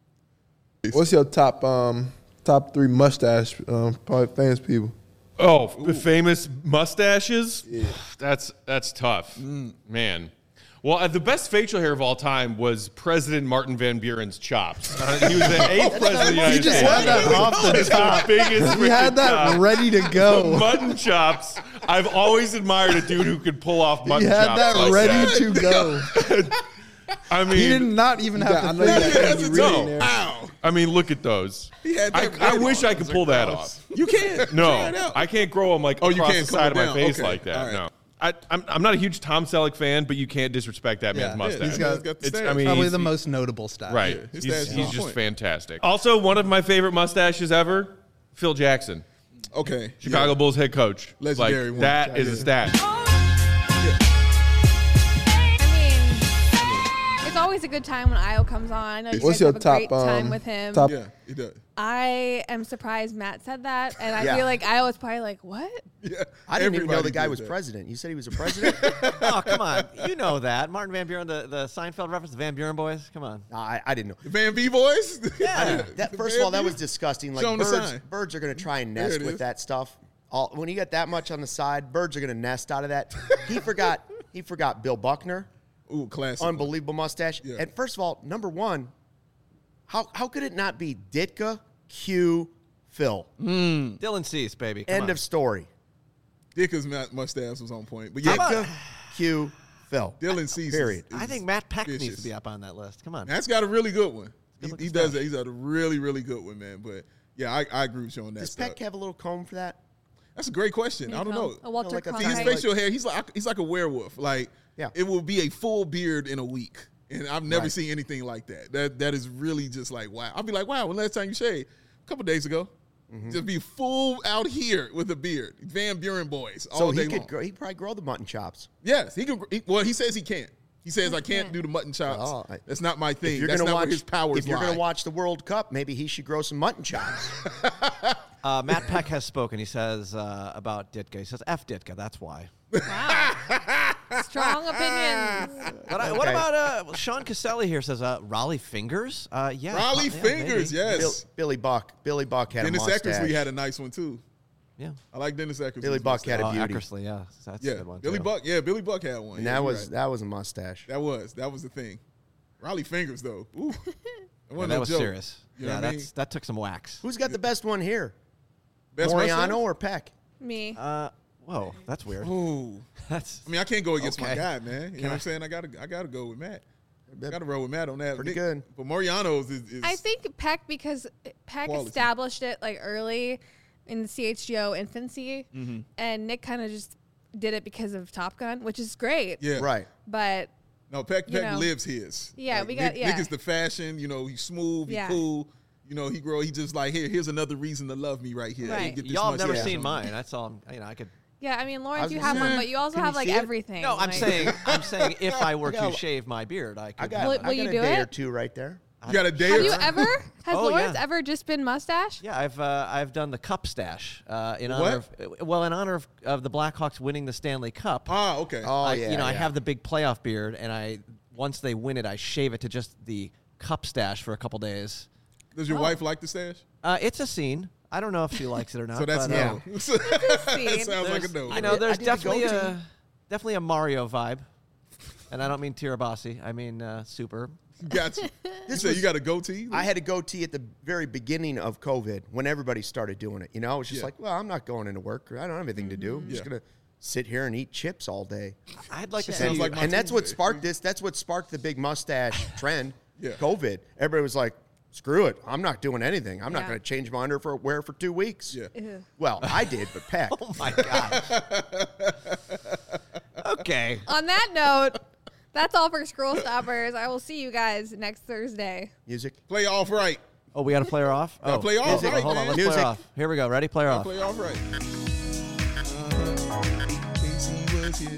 [SPEAKER 5] What's your top 3 mustache probably famous people?
[SPEAKER 6] Oh, famous mustaches? That's tough, man. Well, the best facial hair of all time was President Martin Van Buren's chops. He was the 8th president of the United
[SPEAKER 5] He just
[SPEAKER 6] States.
[SPEAKER 5] had that off the
[SPEAKER 6] It's
[SPEAKER 5] top.
[SPEAKER 6] biggest
[SPEAKER 5] He had
[SPEAKER 6] freaking
[SPEAKER 5] that
[SPEAKER 6] chop.
[SPEAKER 5] ready to go.
[SPEAKER 6] Mutton chops. I've always admired a dude who could pull off
[SPEAKER 5] He
[SPEAKER 6] mutton
[SPEAKER 5] had
[SPEAKER 6] chops
[SPEAKER 5] that
[SPEAKER 6] like
[SPEAKER 5] ready
[SPEAKER 6] that.
[SPEAKER 5] to go.
[SPEAKER 6] I mean,
[SPEAKER 5] He did not even have
[SPEAKER 2] I
[SPEAKER 5] to
[SPEAKER 2] know
[SPEAKER 5] think
[SPEAKER 2] you
[SPEAKER 5] that
[SPEAKER 2] had
[SPEAKER 5] he
[SPEAKER 2] to
[SPEAKER 5] really
[SPEAKER 6] know.
[SPEAKER 5] there.
[SPEAKER 2] Ow.
[SPEAKER 6] I mean, look at those.
[SPEAKER 2] He had that
[SPEAKER 6] I
[SPEAKER 2] right
[SPEAKER 6] wish
[SPEAKER 2] on.
[SPEAKER 6] I could pull that off.
[SPEAKER 2] You can. Try
[SPEAKER 6] No,
[SPEAKER 2] it out.
[SPEAKER 6] I can't grow them like
[SPEAKER 2] Oh, you
[SPEAKER 6] across
[SPEAKER 2] can't
[SPEAKER 6] the
[SPEAKER 2] come
[SPEAKER 6] side of my
[SPEAKER 2] down.
[SPEAKER 6] face
[SPEAKER 2] Okay.
[SPEAKER 6] like that.
[SPEAKER 2] All right.
[SPEAKER 6] No. I'm not a huge Tom Selleck fan, but you can't disrespect that man's
[SPEAKER 5] Yeah.
[SPEAKER 6] mustache.
[SPEAKER 2] He's got the
[SPEAKER 6] It's-
[SPEAKER 2] stash.
[SPEAKER 6] I mean,
[SPEAKER 5] Probably
[SPEAKER 6] he's-
[SPEAKER 5] the most notable style.
[SPEAKER 6] right.
[SPEAKER 2] Yeah, his
[SPEAKER 6] he's
[SPEAKER 2] stash is
[SPEAKER 6] he's
[SPEAKER 2] on
[SPEAKER 6] just
[SPEAKER 2] point.
[SPEAKER 6] fantastic. Also, one of my favorite mustaches ever, Phil Jackson,
[SPEAKER 2] Okay.
[SPEAKER 6] Chicago
[SPEAKER 2] Yeah.
[SPEAKER 6] Bulls head coach.
[SPEAKER 2] Legendary
[SPEAKER 6] like,
[SPEAKER 2] one.
[SPEAKER 6] that is a stash.
[SPEAKER 4] I mean, it's always a good time when Io comes on. I know you
[SPEAKER 5] What's
[SPEAKER 4] guys
[SPEAKER 5] your
[SPEAKER 4] have a
[SPEAKER 5] top,
[SPEAKER 4] great time with him.
[SPEAKER 5] top-
[SPEAKER 2] Yeah, he does.
[SPEAKER 4] I am surprised Matt said that, and I
[SPEAKER 1] Yeah.
[SPEAKER 4] feel like Io was probably like, "What?"
[SPEAKER 2] Yeah.
[SPEAKER 1] I didn't even know the
[SPEAKER 2] Everybody
[SPEAKER 1] guy
[SPEAKER 2] did
[SPEAKER 1] was
[SPEAKER 2] that.
[SPEAKER 1] president. You said he was a president?
[SPEAKER 3] Oh, come on. You know that. Martin Van Buren, the Seinfeld reference, the Van Buren boys. Come on.
[SPEAKER 1] No, I didn't know.
[SPEAKER 2] The Van V boys?
[SPEAKER 3] Yeah.
[SPEAKER 1] That
[SPEAKER 2] The
[SPEAKER 1] first of all,
[SPEAKER 2] Van
[SPEAKER 1] that
[SPEAKER 2] V?
[SPEAKER 1] was disgusting. Like
[SPEAKER 2] Show 'em the
[SPEAKER 1] birds,
[SPEAKER 2] sign.
[SPEAKER 1] birds are going to try and
[SPEAKER 2] There
[SPEAKER 1] nest
[SPEAKER 2] it
[SPEAKER 1] with
[SPEAKER 2] is.
[SPEAKER 1] that stuff. When you got that much on the side, birds are going to nest out of that. He forgot Bill Buckner,
[SPEAKER 2] Ooh, classic.
[SPEAKER 1] unbelievable mustache.
[SPEAKER 2] Yeah.
[SPEAKER 1] And first of all, number one, how could it not be Ditka, Q, Phil?
[SPEAKER 3] Dylan Cease, baby. Come
[SPEAKER 1] End
[SPEAKER 3] on.
[SPEAKER 1] of story.
[SPEAKER 2] Dicker's mustache was on point. But yeah,
[SPEAKER 1] Ditka, Q, Phil.
[SPEAKER 2] Dylan Cease.
[SPEAKER 1] Period.
[SPEAKER 2] is
[SPEAKER 3] I think Matt Peck
[SPEAKER 2] vicious.
[SPEAKER 3] needs to be up on that list. Come on.
[SPEAKER 2] Matt's got a really good one.
[SPEAKER 3] Good-looking
[SPEAKER 2] He does
[SPEAKER 3] stuff.
[SPEAKER 2] that. He's got a really, really good one, man. But yeah, I agree with you on that
[SPEAKER 1] Does
[SPEAKER 2] stuff.
[SPEAKER 1] Peck have a little comb for that?
[SPEAKER 2] That's a great question. I don't know.
[SPEAKER 4] A Walter
[SPEAKER 1] like a
[SPEAKER 2] See, his
[SPEAKER 1] Right.
[SPEAKER 4] Cronkite.
[SPEAKER 2] facial hair, he's like a werewolf. Like,
[SPEAKER 1] Yeah.
[SPEAKER 2] it will be a full beard in a week. And I've never
[SPEAKER 1] Right.
[SPEAKER 2] seen anything like that. That is really just like, wow. I'll be like, wow, when last time you shaved? A couple days ago.
[SPEAKER 1] Mm-hmm.
[SPEAKER 2] Just be full out here with a beard. Van Buren boys all
[SPEAKER 1] So
[SPEAKER 2] day
[SPEAKER 1] he
[SPEAKER 2] long.
[SPEAKER 1] could grow, he'd probably grow the mutton chops.
[SPEAKER 2] Yes, he could. Well, he says he can't. He says I can't do the mutton chops.
[SPEAKER 1] Oh,
[SPEAKER 2] That's not my
[SPEAKER 1] If
[SPEAKER 2] thing.
[SPEAKER 1] you're
[SPEAKER 2] That's
[SPEAKER 1] gonna
[SPEAKER 2] not
[SPEAKER 1] watch,
[SPEAKER 2] where his powers
[SPEAKER 1] if you're
[SPEAKER 2] lie.
[SPEAKER 1] going to watch the World Cup, maybe he should grow some mutton chops.
[SPEAKER 3] Matt Peck has spoken. He says about Ditka. He says, F Ditka. That's why.
[SPEAKER 4] Wow. Strong opinions.
[SPEAKER 3] What about Sean Caselli here says Raleigh Fingers? Yeah,
[SPEAKER 2] Raleigh Fingers,
[SPEAKER 3] maybe.
[SPEAKER 2] yes.
[SPEAKER 1] Billy Buck. Billy Buck had
[SPEAKER 2] Dennis
[SPEAKER 1] a mustache.
[SPEAKER 2] Eckersley had a nice one too.
[SPEAKER 3] Yeah.
[SPEAKER 2] I like Dennis Eckersley.
[SPEAKER 1] Billy Buck had a beauty.
[SPEAKER 3] Eckersley, yeah, that's a
[SPEAKER 2] Yeah,
[SPEAKER 3] good one.
[SPEAKER 2] Billy
[SPEAKER 3] too.
[SPEAKER 2] Buck. Yeah, Billy Buck had one.
[SPEAKER 1] And
[SPEAKER 2] Yeah,
[SPEAKER 1] that
[SPEAKER 2] you're
[SPEAKER 1] was
[SPEAKER 2] right.
[SPEAKER 1] that was a mustache.
[SPEAKER 2] that was the thing. Raleigh Fingers though. Ooh,
[SPEAKER 3] Yeah, that was serious.
[SPEAKER 2] You know
[SPEAKER 3] Yeah,
[SPEAKER 2] what I mean?
[SPEAKER 3] that took some wax.
[SPEAKER 1] Who's got the best one here?
[SPEAKER 2] Best
[SPEAKER 1] Moriano
[SPEAKER 2] mustache?
[SPEAKER 1] or Peck?
[SPEAKER 4] Me.
[SPEAKER 3] Whoa, that's weird.
[SPEAKER 2] Ooh.
[SPEAKER 3] That's
[SPEAKER 2] I mean, I can't go against my
[SPEAKER 3] Okay.
[SPEAKER 2] guy, man. You know what I'm saying? I gotta go with Matt. Gotta roll with Matt on that.
[SPEAKER 1] Pretty good.
[SPEAKER 2] But Moriano's is
[SPEAKER 4] I think Peck, because Peck
[SPEAKER 2] Quality.
[SPEAKER 4] established it like early in the CHGO infancy, and Nick kind of just did it because of Top Gun, which is great.
[SPEAKER 2] yeah.
[SPEAKER 1] Right.
[SPEAKER 4] But
[SPEAKER 2] No, Peck
[SPEAKER 4] You know.
[SPEAKER 2] lives his.
[SPEAKER 4] Yeah, we got-
[SPEAKER 2] Nick,
[SPEAKER 4] yeah.
[SPEAKER 2] Nick is the fashion. You know, he's smooth. He's
[SPEAKER 4] Yeah.
[SPEAKER 2] cool. You know, he just like here's another reason to love me right here.
[SPEAKER 4] Right.
[SPEAKER 2] Get this
[SPEAKER 3] y'all have never
[SPEAKER 2] mustache
[SPEAKER 3] seen
[SPEAKER 2] on.
[SPEAKER 3] mine. That's all. I could.
[SPEAKER 4] yeah, I mean, Lawrence,
[SPEAKER 1] was
[SPEAKER 4] you
[SPEAKER 1] gonna
[SPEAKER 4] have
[SPEAKER 1] say,
[SPEAKER 4] one, but you also
[SPEAKER 1] can
[SPEAKER 4] have
[SPEAKER 1] you
[SPEAKER 4] like
[SPEAKER 1] see it?
[SPEAKER 4] everything.
[SPEAKER 3] No, I'm
[SPEAKER 4] like-
[SPEAKER 3] saying if I were to shave my beard, I could.
[SPEAKER 1] I got,
[SPEAKER 4] Will-
[SPEAKER 1] I
[SPEAKER 4] will
[SPEAKER 1] got
[SPEAKER 4] you
[SPEAKER 1] a
[SPEAKER 4] do
[SPEAKER 1] day or
[SPEAKER 4] it?
[SPEAKER 1] two right there.
[SPEAKER 2] You got a day
[SPEAKER 4] Have
[SPEAKER 2] or
[SPEAKER 4] you
[SPEAKER 2] two?
[SPEAKER 4] ever? Has
[SPEAKER 3] Oh,
[SPEAKER 4] Lawrence
[SPEAKER 3] yeah.
[SPEAKER 4] ever just been mustache?
[SPEAKER 3] Yeah, I've done the cup stash in
[SPEAKER 2] What?
[SPEAKER 3] honor of the Blackhawks winning the Stanley Cup.
[SPEAKER 2] Ah, okay.
[SPEAKER 1] Oh,
[SPEAKER 3] I,
[SPEAKER 1] yeah.
[SPEAKER 3] I
[SPEAKER 1] yeah.
[SPEAKER 3] have the big playoff beard, and once they win it, I shave it to just the cup stash for a couple days.
[SPEAKER 2] Does your wife like the stash?
[SPEAKER 3] It's a scene. I don't know if she likes it or not.
[SPEAKER 2] So that's
[SPEAKER 3] but,
[SPEAKER 2] no. that
[SPEAKER 4] Scene.
[SPEAKER 2] sounds like a
[SPEAKER 3] there's-
[SPEAKER 2] no.
[SPEAKER 3] You know, there's
[SPEAKER 1] I did the
[SPEAKER 3] definitely
[SPEAKER 1] goatee.
[SPEAKER 3] definitely a Mario vibe, and I don't mean Tirabassi. I mean Super.
[SPEAKER 2] Gotcha. You say you got a goatee?
[SPEAKER 1] I had a goatee at the very beginning of COVID when everybody started doing it. You know, it was just
[SPEAKER 2] Yeah.
[SPEAKER 1] like, well, I'm not going into work. I don't have anything to do. I'm just
[SPEAKER 2] Yeah.
[SPEAKER 1] going to sit here and eat chips all day.
[SPEAKER 3] I'd like to
[SPEAKER 4] Sounds
[SPEAKER 3] see.
[SPEAKER 2] like my
[SPEAKER 1] And that's what
[SPEAKER 2] Tuesday.
[SPEAKER 1] sparked this. That's what sparked the big mustache trend.
[SPEAKER 2] Yeah.
[SPEAKER 1] COVID. Everybody was like, screw it. I'm not doing anything. I'm not
[SPEAKER 4] Yeah.
[SPEAKER 1] going to change my underwear for 2 weeks.
[SPEAKER 2] Yeah.
[SPEAKER 4] Ew.
[SPEAKER 1] Well, I did, but Peck.
[SPEAKER 3] Oh my god. Okay.
[SPEAKER 4] On that note, that's all for Scroll Stoppers. I will see you guys next Thursday.
[SPEAKER 1] Music.
[SPEAKER 2] Play off right.
[SPEAKER 3] Oh, we got to play her off.
[SPEAKER 2] Gotta
[SPEAKER 3] Oh,
[SPEAKER 2] play her off
[SPEAKER 3] music.
[SPEAKER 2] right,
[SPEAKER 3] Hold on,
[SPEAKER 2] man.
[SPEAKER 3] let's play
[SPEAKER 1] Music.
[SPEAKER 3] her off. Here we go. Ready? Play her off.
[SPEAKER 2] Play off right. Casey was here.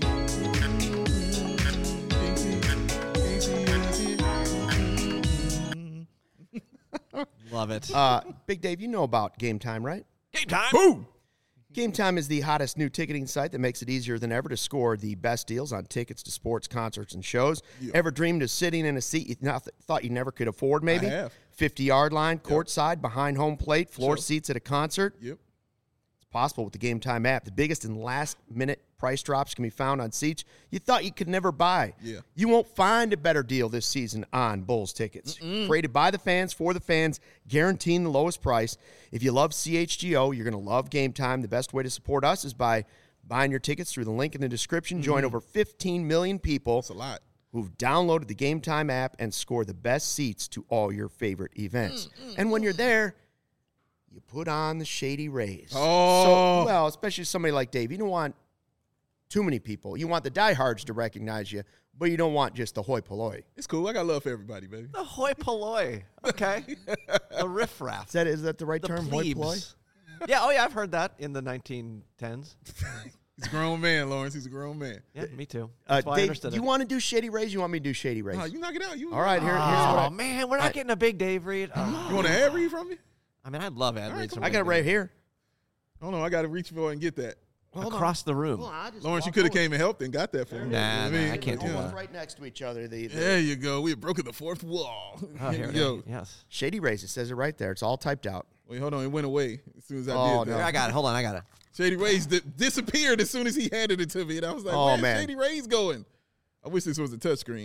[SPEAKER 3] Love it.
[SPEAKER 1] Big Dave, you know about Game Time, right?
[SPEAKER 3] Game time.
[SPEAKER 2] Boom.
[SPEAKER 1] Game Time is the hottest new ticketing site that makes it easier than ever to score the best deals on tickets to sports, concerts, and shows.
[SPEAKER 2] Yeah.
[SPEAKER 1] Ever dreamed of sitting in a seat you thought you never could afford, maybe?
[SPEAKER 2] I have.
[SPEAKER 1] 50-yard line, courtside, behind home plate, floor
[SPEAKER 2] Sure.
[SPEAKER 1] seats at a concert.
[SPEAKER 2] Yep.
[SPEAKER 1] It's possible with the Game Time app. The biggest and last-minute price drops can be found on seats you thought you could never buy.
[SPEAKER 2] Yeah.
[SPEAKER 1] You won't find a better deal this season on Bulls tickets. Created by the fans, for the fans, guaranteeing the lowest price. If you love CHGO, you're going to love Game Time. The best way to support us is by buying your tickets through the link in the description. Join over 15 million people
[SPEAKER 2] That's a lot.
[SPEAKER 1] who've downloaded the Game Time app and score the best seats to all your favorite events. And when you're there, you put on the Shady Rays.
[SPEAKER 2] Oh.
[SPEAKER 1] Well, especially somebody like Dave. You don't want too many people. You want the diehards to recognize you, but you don't want just the hoi polloi.
[SPEAKER 2] It's cool. I got love for everybody, baby.
[SPEAKER 3] The hoi polloi. Okay. The riffraff.
[SPEAKER 1] Is that the right
[SPEAKER 3] The
[SPEAKER 1] term, hoi polloi?
[SPEAKER 3] plebes. Yeah. Oh, yeah. I've heard that in the 1910s.
[SPEAKER 2] He's a grown man, Lawrence. He's a grown man.
[SPEAKER 3] Yeah, me too. That's why I
[SPEAKER 1] Dave,
[SPEAKER 3] understood
[SPEAKER 1] you
[SPEAKER 3] it.
[SPEAKER 1] want to do Shady Rays? You want me to do Shady Rays?
[SPEAKER 2] No, you knock it out. You
[SPEAKER 1] All right, here's what
[SPEAKER 3] Oh
[SPEAKER 1] I,
[SPEAKER 3] man, we're not getting a big Dave read. Oh.
[SPEAKER 2] You want an ad read from me?
[SPEAKER 3] I mean, I'd love ad reads. from
[SPEAKER 1] I got it
[SPEAKER 3] Big
[SPEAKER 1] right
[SPEAKER 3] Dave.
[SPEAKER 1] here.
[SPEAKER 2] Hold on. I got to reach for it and get that.
[SPEAKER 3] Across the room.
[SPEAKER 2] Lawrence, you could have came and helped and got that for me.
[SPEAKER 3] Nah,
[SPEAKER 2] You know what
[SPEAKER 3] nah, I can't do
[SPEAKER 2] Yeah.
[SPEAKER 3] that.
[SPEAKER 1] Right next to each other.
[SPEAKER 2] There you go. We have broken the fourth wall.
[SPEAKER 3] Oh, here it
[SPEAKER 2] Yo.
[SPEAKER 3] is. Yes.
[SPEAKER 1] Shady Rays. It says it right there. It's all typed out.
[SPEAKER 2] Wait, hold on. It went away as soon as I
[SPEAKER 1] Oh,
[SPEAKER 2] did
[SPEAKER 1] no.
[SPEAKER 2] that.
[SPEAKER 3] Here, I got it. Hold on, I got it.
[SPEAKER 2] Shady Rays disappeared as soon as he handed it to me. And I was like,
[SPEAKER 1] Oh,
[SPEAKER 2] where's
[SPEAKER 1] man.
[SPEAKER 2] Shady Rays going? I wish this was a touchscreen.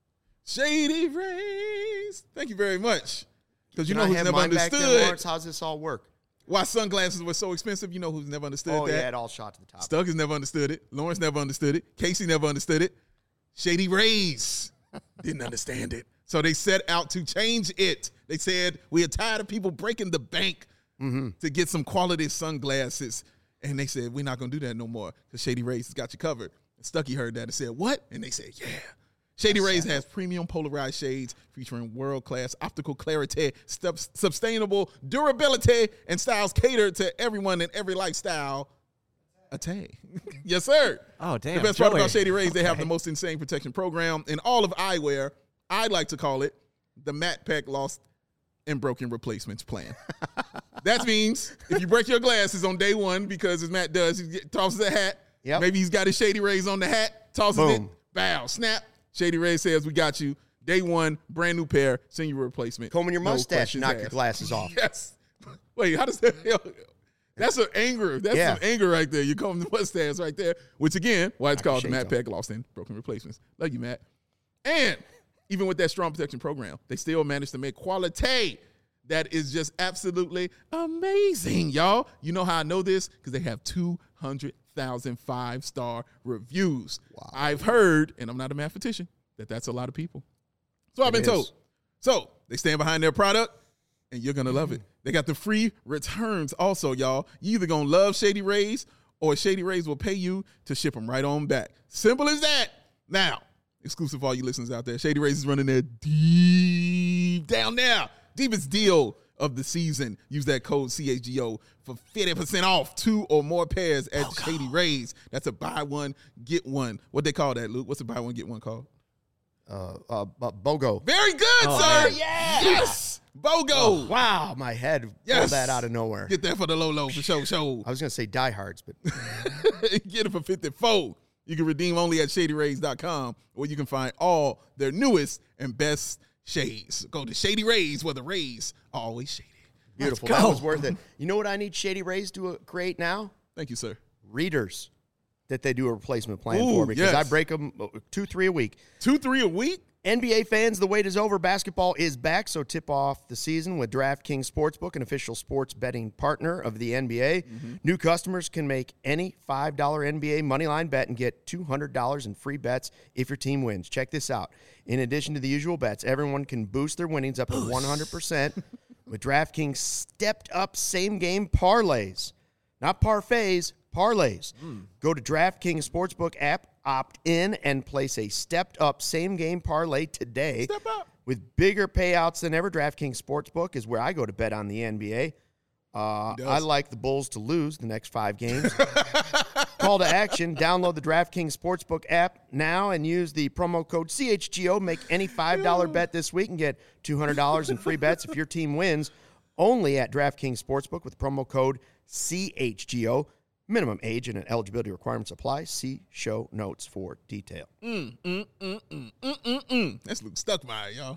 [SPEAKER 2] Shady Rays. Thank you very much. Because you
[SPEAKER 1] Can
[SPEAKER 2] know
[SPEAKER 1] I
[SPEAKER 2] who's
[SPEAKER 1] have
[SPEAKER 2] never
[SPEAKER 1] mine back then,
[SPEAKER 2] understood
[SPEAKER 1] Lawrence? How's this all work?
[SPEAKER 2] why sunglasses were so expensive. You know who's never understood
[SPEAKER 1] Oh,
[SPEAKER 2] that?
[SPEAKER 1] yeah, it all shot to the top.
[SPEAKER 2] Stuckers never understood it. Lawrence never understood it. Casey never understood it. Shady Rays didn't understand it. So they set out to change it. They said, we are tired of people breaking the bank to get some quality sunglasses. And they said, we're not going to do that no more because Shady Rays has got you covered. And Stuckey heard that and said, what? And they said, yeah. Shady Rays has premium polarized shades featuring world-class optical clarity, sustainable durability, and styles catered to everyone in every lifestyle. Yes, sir.
[SPEAKER 3] Oh, damn.
[SPEAKER 2] The best part
[SPEAKER 3] Joey.
[SPEAKER 2] about Shady Rays, they have the
[SPEAKER 3] Okay.
[SPEAKER 2] most insane protection program in all of eyewear. I like to call it the Matt Peck Lost and Broken Replacements Plan. That means if you break your glasses on day one, because as Matt does, he tosses a hat.
[SPEAKER 1] Yep.
[SPEAKER 2] Maybe he's got his Shady Rays on the hat, tosses
[SPEAKER 1] Boom.
[SPEAKER 2] it, bow, snap. Shady Rays says we got you. Day one, brand new pair, send you a replacement.
[SPEAKER 1] Combing your
[SPEAKER 2] No
[SPEAKER 1] mustache,
[SPEAKER 2] questions
[SPEAKER 1] knock your
[SPEAKER 2] asked.
[SPEAKER 1] glasses off.
[SPEAKER 2] Yes. Wait, how does that? That's an anger. That's
[SPEAKER 1] Yeah.
[SPEAKER 2] some anger right there. You comb the mustache right there, which again, why it's
[SPEAKER 1] Knock your
[SPEAKER 2] called the Matt
[SPEAKER 1] shades
[SPEAKER 2] Peck Lost in Broken Replacements. Love you, Matt. And even with that strong protection program, they still managed to make quality that is just absolutely amazing, y'all. You know how I know this? Because they have 200,000 5-star reviews. Wow. I've heard, and I'm not a mathematician, that's a lot of people. So I've been told. So they stand behind their product, and you're going to love it. They got the free returns also, y'all. You either going to love Shady Rays, or Shady Rays will pay you to ship them right on back. Simple as that. Now, exclusive for all you listeners out there, Shady Rays is running their deep down there. Deepest deal of the season. Use that code CHGO for 50% off 2 or more pairs at Shady Rays. That's a buy one, get one. What they call that, Luke? What's a buy one, get one called?
[SPEAKER 1] BOGO.
[SPEAKER 2] Very good, sir. Yes. BOGO.
[SPEAKER 1] Wow, my head pulled that out of nowhere.
[SPEAKER 2] Get that for the low for show.
[SPEAKER 1] I was going to say diehards, but
[SPEAKER 2] Get it for 54. You can redeem only at ShadyRays.com, where you can find all their newest and best shades. Go to Shady Rays, where the rays are always shady.
[SPEAKER 1] beautiful. That was worth it. You know what I need Shady Rays to create now?
[SPEAKER 2] Thank you, sir.
[SPEAKER 1] Readers that they do a replacement plan
[SPEAKER 2] Ooh,
[SPEAKER 1] for, because
[SPEAKER 2] yes.
[SPEAKER 1] I break them 2-3 a week.
[SPEAKER 2] 2-3 a week?
[SPEAKER 1] NBA fans, the wait is over. Basketball is back, so tip off the season with DraftKings Sportsbook, an official sports betting partner of the NBA. New customers can make any $5 NBA moneyline bet and get $200 in free bets if your team wins. Check this out. In addition to the usual bets, everyone can boost their winnings up to 100% with DraftKings stepped-up same-game parlays. Not parfaits, parlays. Go to DraftKings Sportsbook app, opt in, and place a stepped-up same-game parlay today.
[SPEAKER 2] Step up.
[SPEAKER 1] With bigger payouts than ever. DraftKings Sportsbook is where I go to bet on the NBA. I like the Bulls to lose the next 5 games. Call to action. Download the DraftKings Sportsbook app now and use the promo code CHGO. Make any $5 bet this week and get $200 in free bets if your team wins. Only at DraftKings Sportsbook with promo code CHGO. Minimum age and eligibility requirements apply. See show notes for detail.
[SPEAKER 2] That's Luke Stuckmeyer, y'all.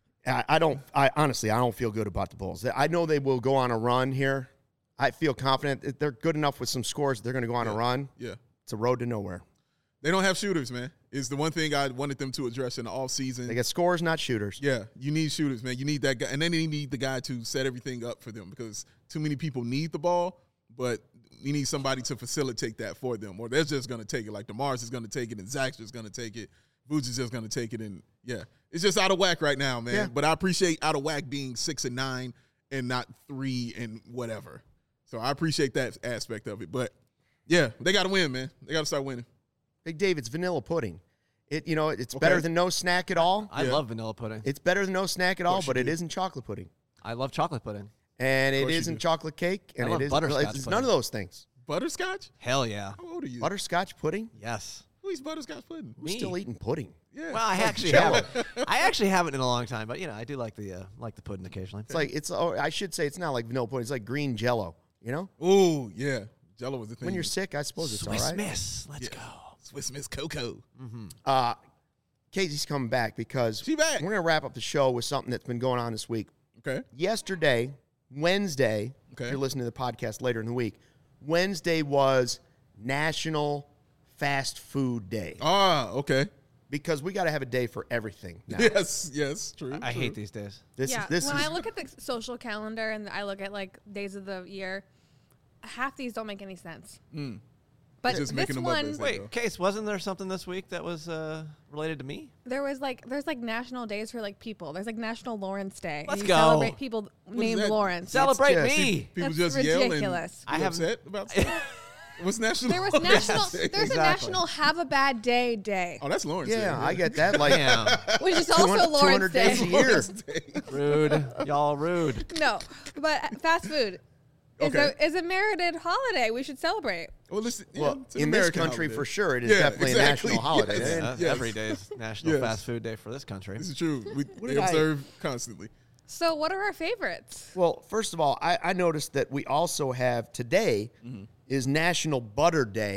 [SPEAKER 1] I honestly don't feel good about the Bulls. I know they will go on a run here. I feel confident that they're good enough with some scores. They're going to go on a run.
[SPEAKER 2] Yeah.
[SPEAKER 1] It's a road to nowhere.
[SPEAKER 2] They don't have shooters, man. It's the one thing I wanted them to address in the offseason.
[SPEAKER 1] They get scores, not shooters.
[SPEAKER 2] Yeah, you need shooters, man. You need that guy. And then they need the guy to set everything up for them, because too many people need the ball, but you need somebody to facilitate that for them. Or they're just going to take it. Like DeMars is going to take it, and Zach's just going to take it. Vooch is just going to take it. And, yeah, it's just out of whack right now, man.
[SPEAKER 1] Yeah.
[SPEAKER 2] But I appreciate out of whack being 6-9 and not 3 and whatever. So I appreciate that aspect of it. But, yeah, they got to win, man. They got to start winning.
[SPEAKER 1] Big Dave, it's vanilla pudding. It's better than no snack at all.
[SPEAKER 3] I love vanilla pudding.
[SPEAKER 1] It's better than no snack at all, but it isn't chocolate pudding.
[SPEAKER 3] I love chocolate pudding.
[SPEAKER 1] And it
[SPEAKER 2] course you
[SPEAKER 1] isn't
[SPEAKER 2] do.
[SPEAKER 1] chocolate cake. And
[SPEAKER 3] I love
[SPEAKER 1] it is
[SPEAKER 3] butterscotch
[SPEAKER 1] it's none
[SPEAKER 3] pudding.
[SPEAKER 1] of those things.
[SPEAKER 2] Butterscotch?
[SPEAKER 3] Hell yeah.
[SPEAKER 2] How old are you?
[SPEAKER 1] Butterscotch pudding?
[SPEAKER 3] Yes.
[SPEAKER 2] Who eats butterscotch pudding?
[SPEAKER 1] Who's still eating pudding?
[SPEAKER 2] Yeah.
[SPEAKER 3] Well, I actually haven't. I actually haven't in a long time, but I do like the pudding occasionally.
[SPEAKER 1] I should say it's not like vanilla pudding. It's like green Jello. You know,
[SPEAKER 2] Ooh, yeah. Jello was the thing.
[SPEAKER 1] when you're sick, I suppose it's all
[SPEAKER 3] Swiss
[SPEAKER 1] right.
[SPEAKER 3] Miss. Let's go.
[SPEAKER 2] Swiss Miss Cocoa.
[SPEAKER 1] Casey's coming back because
[SPEAKER 2] She back.
[SPEAKER 1] we're going to wrap up the show with something that's been going on this week.
[SPEAKER 2] Okay.
[SPEAKER 1] Yesterday, Wednesday,
[SPEAKER 2] Okay.
[SPEAKER 1] if you're listening to the podcast later in the week, Wednesday was National Fast Food Day
[SPEAKER 2] Ah, okay.
[SPEAKER 1] because we got to have a day for everything now.
[SPEAKER 2] Yes, true.
[SPEAKER 3] I
[SPEAKER 2] true.
[SPEAKER 3] hate these days.
[SPEAKER 1] This
[SPEAKER 4] yeah,
[SPEAKER 1] is
[SPEAKER 4] when I look at the social calendar and I look at like days of the year, half these don't make any sense. But
[SPEAKER 2] Just
[SPEAKER 4] this
[SPEAKER 2] making them up
[SPEAKER 4] one,
[SPEAKER 2] as they
[SPEAKER 3] Wait,
[SPEAKER 2] go.
[SPEAKER 3] Case, wasn't there something this week that was related to me?
[SPEAKER 4] there's like national days for like people. There's like National Lawrence Day. and
[SPEAKER 3] Let's
[SPEAKER 4] you
[SPEAKER 3] go.
[SPEAKER 4] celebrate people named
[SPEAKER 2] that?
[SPEAKER 4] Lawrence.
[SPEAKER 3] Celebrate
[SPEAKER 1] just-
[SPEAKER 3] me.
[SPEAKER 2] People
[SPEAKER 4] That's
[SPEAKER 2] just yell and
[SPEAKER 4] ridiculous.
[SPEAKER 3] I
[SPEAKER 2] be
[SPEAKER 3] haven't-
[SPEAKER 2] upset about stuff. What's national?
[SPEAKER 4] There was
[SPEAKER 2] Lawrence
[SPEAKER 4] national.
[SPEAKER 2] Day?
[SPEAKER 4] There's a
[SPEAKER 3] Exactly.
[SPEAKER 4] National Have a Bad Day,
[SPEAKER 2] Oh, that's Lawrence.
[SPEAKER 1] yeah,
[SPEAKER 2] Day,
[SPEAKER 1] I get that. Like
[SPEAKER 3] Damn.
[SPEAKER 4] which is also
[SPEAKER 1] 200
[SPEAKER 4] Lawrence
[SPEAKER 1] days a
[SPEAKER 4] Day.
[SPEAKER 1] year.
[SPEAKER 2] Lawrence Day.
[SPEAKER 3] Rude. Y'all rude.
[SPEAKER 4] No, but fast food
[SPEAKER 2] Okay.
[SPEAKER 4] is a merited holiday. We should celebrate.
[SPEAKER 2] Well, listen. Yeah,
[SPEAKER 1] Well,
[SPEAKER 2] it's an
[SPEAKER 1] in this
[SPEAKER 2] American
[SPEAKER 1] country,
[SPEAKER 2] holiday.
[SPEAKER 1] for sure, it is
[SPEAKER 2] Yeah,
[SPEAKER 1] definitely
[SPEAKER 2] exactly.
[SPEAKER 1] a national holiday.
[SPEAKER 2] Yes.
[SPEAKER 1] And
[SPEAKER 2] Yes.
[SPEAKER 3] Every day is National
[SPEAKER 2] Yes.
[SPEAKER 3] Fast Food Day for this country.
[SPEAKER 2] This is true. They
[SPEAKER 1] did I-
[SPEAKER 2] observe constantly.
[SPEAKER 4] So, what are our favorites?
[SPEAKER 1] Well, first of all, I noticed that we also have today is National Butter Day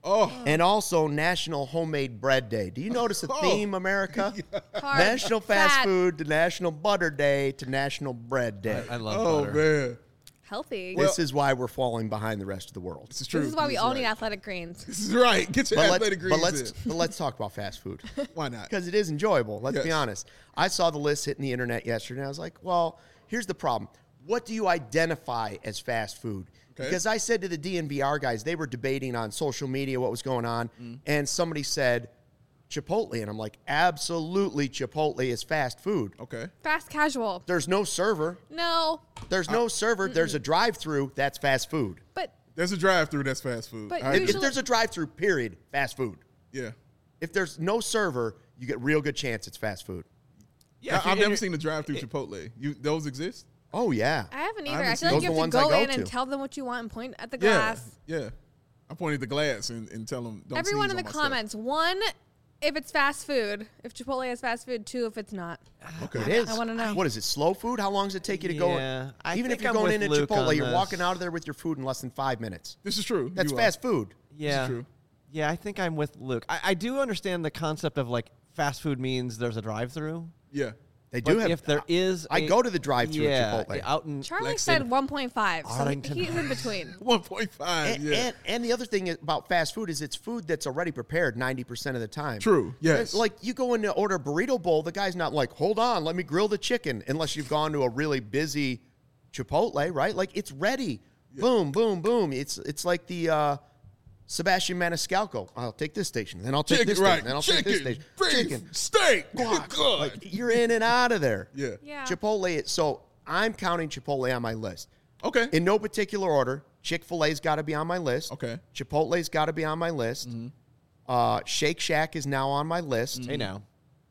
[SPEAKER 2] Oh,
[SPEAKER 1] and also National Homemade Bread Day. Do you notice a theme, America?
[SPEAKER 4] Carb,
[SPEAKER 1] National Fast
[SPEAKER 4] fat,
[SPEAKER 1] Food to National Butter Day to National Bread Day.
[SPEAKER 3] I love
[SPEAKER 2] oh
[SPEAKER 3] butter.
[SPEAKER 2] man,
[SPEAKER 4] healthy.
[SPEAKER 1] This is why we're falling behind the rest of the world.
[SPEAKER 2] this is true.
[SPEAKER 4] This is why we
[SPEAKER 2] This
[SPEAKER 4] all need
[SPEAKER 2] right.
[SPEAKER 4] athletic greens.
[SPEAKER 2] This is right. Get your athletic greens
[SPEAKER 1] But let's talk about fast food.
[SPEAKER 2] in. Why not?
[SPEAKER 1] Because it is enjoyable. Let's be
[SPEAKER 2] Yes.
[SPEAKER 1] honest. I saw the list hitting the internet yesterday, and I was like, well, here's the problem. What do you identify as fast food?
[SPEAKER 2] Okay.
[SPEAKER 1] Because I said to the DNVR guys, they were debating on social media what was going on, and somebody said Chipotle, and I'm like, absolutely, Chipotle is fast food.
[SPEAKER 2] Okay.
[SPEAKER 4] Fast casual.
[SPEAKER 1] There's no server.
[SPEAKER 4] No,
[SPEAKER 1] There's no server. There's a drive-through. That's fast food.
[SPEAKER 4] but
[SPEAKER 2] There's a drive-through that's fast food.
[SPEAKER 4] But
[SPEAKER 2] I
[SPEAKER 1] If,
[SPEAKER 2] agree.
[SPEAKER 1] if there's a drive-through, period, fast food.
[SPEAKER 2] Yeah.
[SPEAKER 1] If there's no server, you get real good chance it's fast food.
[SPEAKER 3] Yeah, if
[SPEAKER 2] I've
[SPEAKER 3] you're-
[SPEAKER 2] never seen a drive-through Chipotle. Those exist?
[SPEAKER 1] Oh yeah.
[SPEAKER 4] I haven't
[SPEAKER 2] I
[SPEAKER 4] either. I,
[SPEAKER 2] haven't
[SPEAKER 4] feel
[SPEAKER 2] seen
[SPEAKER 4] like you
[SPEAKER 1] those
[SPEAKER 4] have
[SPEAKER 1] the
[SPEAKER 4] to
[SPEAKER 1] ones I
[SPEAKER 4] go
[SPEAKER 1] go
[SPEAKER 4] in and
[SPEAKER 1] to.
[SPEAKER 4] tell them what you want and point at the
[SPEAKER 2] Yeah.
[SPEAKER 4] glass.
[SPEAKER 2] Yeah. I point at the glass and tell them. Don't
[SPEAKER 4] Everyone
[SPEAKER 2] sneeze
[SPEAKER 4] in the
[SPEAKER 2] on my stuff.
[SPEAKER 4] comments. 1, if it's fast food. If Chipotle is fast food. 2, if it's not.
[SPEAKER 2] Okay.
[SPEAKER 1] It is.
[SPEAKER 4] I wanna know.
[SPEAKER 1] What is it? Slow food? How long does it take you to go?
[SPEAKER 3] Yeah, I
[SPEAKER 1] Even if
[SPEAKER 3] think
[SPEAKER 1] you're
[SPEAKER 3] I'm
[SPEAKER 1] going
[SPEAKER 3] with
[SPEAKER 1] in at
[SPEAKER 3] Luke
[SPEAKER 1] Chipotle,
[SPEAKER 3] on
[SPEAKER 1] you're
[SPEAKER 3] this.
[SPEAKER 1] walking out of there with your food in less than 5 minutes.
[SPEAKER 2] This is true.
[SPEAKER 1] That's
[SPEAKER 2] You are.
[SPEAKER 1] fast food.
[SPEAKER 3] Yeah.
[SPEAKER 2] true.
[SPEAKER 3] Yeah, I think I'm with Luke. I do understand the concept of like fast food means there's a drive-through.
[SPEAKER 2] Yeah.
[SPEAKER 1] They do
[SPEAKER 3] But
[SPEAKER 1] have.
[SPEAKER 3] if there is,
[SPEAKER 1] I go to the drive-thru at Chipotle.
[SPEAKER 3] out in
[SPEAKER 4] Charlie
[SPEAKER 2] Lexington.
[SPEAKER 4] said 1.5. So
[SPEAKER 3] Arlington.
[SPEAKER 4] he's in between.
[SPEAKER 2] 1.5.
[SPEAKER 1] and,
[SPEAKER 2] Yeah.
[SPEAKER 1] and the other thing about fast food is it's food that's already prepared 90% of the time.
[SPEAKER 2] True. Yes.
[SPEAKER 1] Like you go in to order a burrito bowl, the guy's not like, hold on, let me grill the chicken, unless you've gone to a really busy Chipotle, right? Like it's ready. Boom, boom, boom. It's like the Sebastian Maniscalco. I'll take this station, then I'll take
[SPEAKER 2] Chicken,
[SPEAKER 1] this
[SPEAKER 2] right.
[SPEAKER 1] station, then I'll take this
[SPEAKER 2] Chicken,
[SPEAKER 1] station.
[SPEAKER 2] beef, steak.
[SPEAKER 1] Guac.
[SPEAKER 2] Good.
[SPEAKER 1] Like you're in and out of there.
[SPEAKER 2] Yeah.
[SPEAKER 4] Yeah.
[SPEAKER 1] Chipotle. So I'm counting Chipotle on my list.
[SPEAKER 2] Okay.
[SPEAKER 1] In no particular order. Chick-fil-A's got to be on my list.
[SPEAKER 2] Okay.
[SPEAKER 1] Chipotle's got to be on my list. Shake Shack is now on my list.
[SPEAKER 3] Hey now.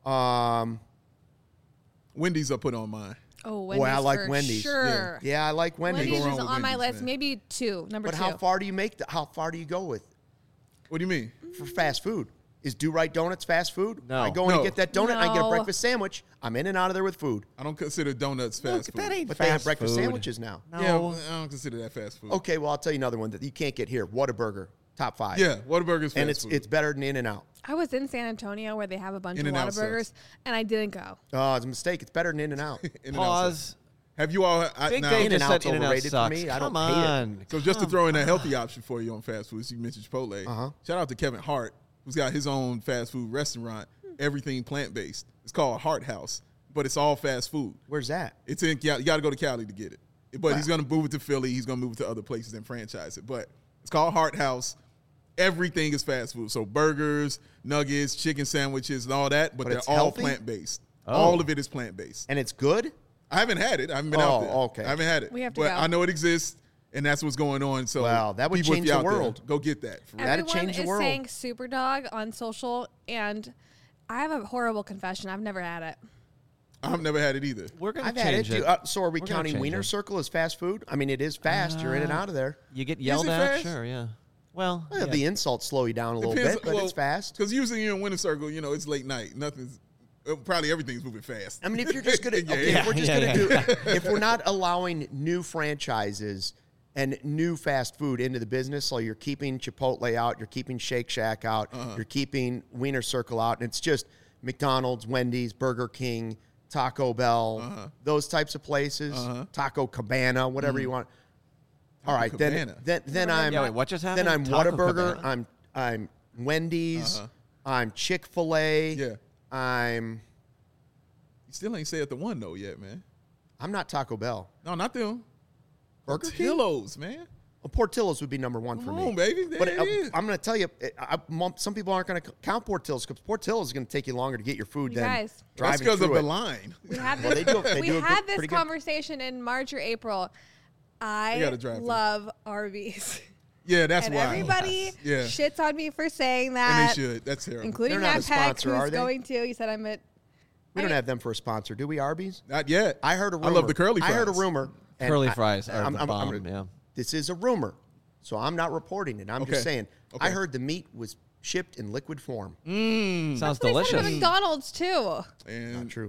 [SPEAKER 2] Wendy's I put on mine.
[SPEAKER 4] Oh, Wendy's
[SPEAKER 1] I like
[SPEAKER 4] for
[SPEAKER 1] Wendy's.
[SPEAKER 4] Sure.
[SPEAKER 1] Yeah, I like Wendy's.
[SPEAKER 4] Wendy's
[SPEAKER 2] Go wrong
[SPEAKER 4] is
[SPEAKER 2] with
[SPEAKER 4] on my
[SPEAKER 2] Wendy's,
[SPEAKER 4] list.
[SPEAKER 2] man.
[SPEAKER 4] Maybe 2. Number
[SPEAKER 1] But
[SPEAKER 4] 2.
[SPEAKER 1] how far do you make? How far do you go with
[SPEAKER 2] What do you mean?
[SPEAKER 1] for fast food? Is Do Right Donuts fast food?
[SPEAKER 3] No.
[SPEAKER 1] I go in
[SPEAKER 2] No.
[SPEAKER 1] and get that donut. I get a
[SPEAKER 4] No.
[SPEAKER 1] breakfast sandwich. I'm in and out of there with food.
[SPEAKER 2] I don't consider donuts fast food.
[SPEAKER 3] that ain't
[SPEAKER 1] But
[SPEAKER 3] fast
[SPEAKER 1] they have breakfast
[SPEAKER 3] food.
[SPEAKER 1] sandwiches now.
[SPEAKER 3] No.
[SPEAKER 2] Yeah, I don't consider that fast food.
[SPEAKER 1] Okay, well I'll tell you another one that you can't get here. Whataburger, top 5.
[SPEAKER 2] Yeah, Whataburger's fast
[SPEAKER 1] and it's
[SPEAKER 2] food.
[SPEAKER 1] better than In and Out.
[SPEAKER 4] I was in San Antonio where they have a bunch of
[SPEAKER 2] In-N-Out
[SPEAKER 4] Whataburgers,
[SPEAKER 2] sucks.
[SPEAKER 4] and I didn't go.
[SPEAKER 1] Oh, it's a mistake. It's better than In and Out.
[SPEAKER 2] In-N-Out
[SPEAKER 3] Pause.
[SPEAKER 2] sucks. Have you all?
[SPEAKER 3] Big
[SPEAKER 2] now,
[SPEAKER 3] Dave just
[SPEAKER 1] In-N-Out's
[SPEAKER 3] said In-N-Out
[SPEAKER 1] overrated for
[SPEAKER 3] sucks.
[SPEAKER 1] me. I
[SPEAKER 3] Come
[SPEAKER 1] don't hate it.
[SPEAKER 3] on.
[SPEAKER 2] So just to throw in a healthy option for you on fast food, so you mentioned Chipotle. Shout out to Kevin Hart, who's got his own fast food restaurant, everything plant based. It's called Hart House, but it's all fast food.
[SPEAKER 1] Where's that?
[SPEAKER 2] It's in. You got to go to Cali to get it. But he's going to move it to Philly. He's going to move it to other places and franchise it. But it's called Hart House. Everything is fast food. So burgers, nuggets, chicken sandwiches, and all that. But they're
[SPEAKER 1] it's
[SPEAKER 2] all
[SPEAKER 1] healthy?
[SPEAKER 2] plant based. All of it is plant based.
[SPEAKER 1] And it's good?
[SPEAKER 2] I haven't had it. I haven't been out there.
[SPEAKER 1] okay.
[SPEAKER 2] I haven't had it.
[SPEAKER 4] We have to
[SPEAKER 2] but
[SPEAKER 4] go.
[SPEAKER 2] I know it exists, and that's what's going on. So
[SPEAKER 1] Wow, that would
[SPEAKER 2] people, if
[SPEAKER 1] change
[SPEAKER 2] you're
[SPEAKER 1] the
[SPEAKER 2] out there,
[SPEAKER 1] world.
[SPEAKER 2] go get that. For real.
[SPEAKER 1] That'd
[SPEAKER 4] Everyone
[SPEAKER 1] change the
[SPEAKER 4] is
[SPEAKER 1] world.
[SPEAKER 4] saying Superdog on social, and I have a horrible confession. I've never had it.
[SPEAKER 2] I've never had it either.
[SPEAKER 3] We're gonna
[SPEAKER 1] I've had it.
[SPEAKER 3] change it.
[SPEAKER 1] So are we
[SPEAKER 3] We're gonna
[SPEAKER 1] counting
[SPEAKER 3] change
[SPEAKER 1] Wiener
[SPEAKER 3] it.
[SPEAKER 1] Circle as fast food? I mean, it is fast. You're in and out of there.
[SPEAKER 3] You get yelled
[SPEAKER 2] it
[SPEAKER 3] at,
[SPEAKER 2] fast?
[SPEAKER 3] sure, yeah. Well,
[SPEAKER 1] Well,
[SPEAKER 3] yeah.
[SPEAKER 1] the insults slow you down a little bit, but it's fast.
[SPEAKER 2] Because usually you're in Winter Circle, it's late night. Nothing's probably everything's moving fast.
[SPEAKER 1] I mean, if you're just gonna,
[SPEAKER 2] Yeah,
[SPEAKER 1] okay,
[SPEAKER 2] yeah.
[SPEAKER 1] if we're just
[SPEAKER 3] Yeah,
[SPEAKER 1] gonna do, if we're not allowing new franchises and new fast food into the business, so you're keeping Chipotle out, you're keeping Shake Shack out, you're keeping Wiener Circle out, and it's just McDonald's, Wendy's, Burger King, Taco Bell, those types of places, Taco Cabana, whatever you want. All right,
[SPEAKER 2] Cabana.
[SPEAKER 1] then I'm
[SPEAKER 3] Yeah, wait, what just happened?
[SPEAKER 1] Then I'm
[SPEAKER 3] Taco
[SPEAKER 1] Whataburger.
[SPEAKER 3] Cabana?
[SPEAKER 1] I'm Wendy's. I'm Chick-fil-A.
[SPEAKER 2] Yeah.
[SPEAKER 1] I'm
[SPEAKER 2] You still ain't said the one though yet, man.
[SPEAKER 1] not Taco Bell.
[SPEAKER 2] No, not them.
[SPEAKER 1] Burger King?
[SPEAKER 2] Portillo's, man.
[SPEAKER 1] Well, Portillo's would be number one for
[SPEAKER 2] Come
[SPEAKER 1] me.
[SPEAKER 2] on, baby. There
[SPEAKER 1] But
[SPEAKER 2] it is.
[SPEAKER 1] I'm going to tell you, some people aren't going to count Portillo's because Portillo's is going to take you longer to get your food
[SPEAKER 4] You
[SPEAKER 1] than
[SPEAKER 4] guys.
[SPEAKER 2] That's
[SPEAKER 1] driving
[SPEAKER 2] because of
[SPEAKER 1] through
[SPEAKER 2] the
[SPEAKER 1] it.
[SPEAKER 2] line.
[SPEAKER 4] We had
[SPEAKER 1] Well,
[SPEAKER 4] this,
[SPEAKER 1] they do a
[SPEAKER 4] had
[SPEAKER 1] good-
[SPEAKER 4] this
[SPEAKER 1] pretty good-
[SPEAKER 4] conversation in March or April.
[SPEAKER 2] They gotta
[SPEAKER 4] I
[SPEAKER 2] drive through.
[SPEAKER 4] love Arby's.
[SPEAKER 2] Yeah, that's
[SPEAKER 4] And
[SPEAKER 2] why.
[SPEAKER 4] everybody
[SPEAKER 2] Yeah.
[SPEAKER 4] shits on me for saying
[SPEAKER 2] And
[SPEAKER 4] that,
[SPEAKER 2] they should. That's terrible.
[SPEAKER 4] including
[SPEAKER 1] They're not
[SPEAKER 4] Matt
[SPEAKER 1] a
[SPEAKER 4] Peck,
[SPEAKER 1] sponsor, are
[SPEAKER 4] who's
[SPEAKER 1] they?
[SPEAKER 4] going to. He said I'm at.
[SPEAKER 1] We don't have them for a sponsor, do we, Arby's?
[SPEAKER 2] Not yet.
[SPEAKER 1] I heard a rumor.
[SPEAKER 2] I love the curly fries.
[SPEAKER 1] I heard a rumor. and
[SPEAKER 3] Curly
[SPEAKER 1] I-
[SPEAKER 3] fries are
[SPEAKER 1] I'm-
[SPEAKER 3] the
[SPEAKER 1] I'm-
[SPEAKER 3] bomb,
[SPEAKER 1] I'm-
[SPEAKER 3] yeah.
[SPEAKER 1] This is a rumor, so I'm not reporting it. I'm just
[SPEAKER 2] Okay.
[SPEAKER 1] saying.
[SPEAKER 2] Okay.
[SPEAKER 1] I heard the meat was shipped in liquid form.
[SPEAKER 3] Sounds
[SPEAKER 4] They said it
[SPEAKER 3] delicious.
[SPEAKER 4] at McDonald's too.
[SPEAKER 1] Not
[SPEAKER 2] And
[SPEAKER 1] true.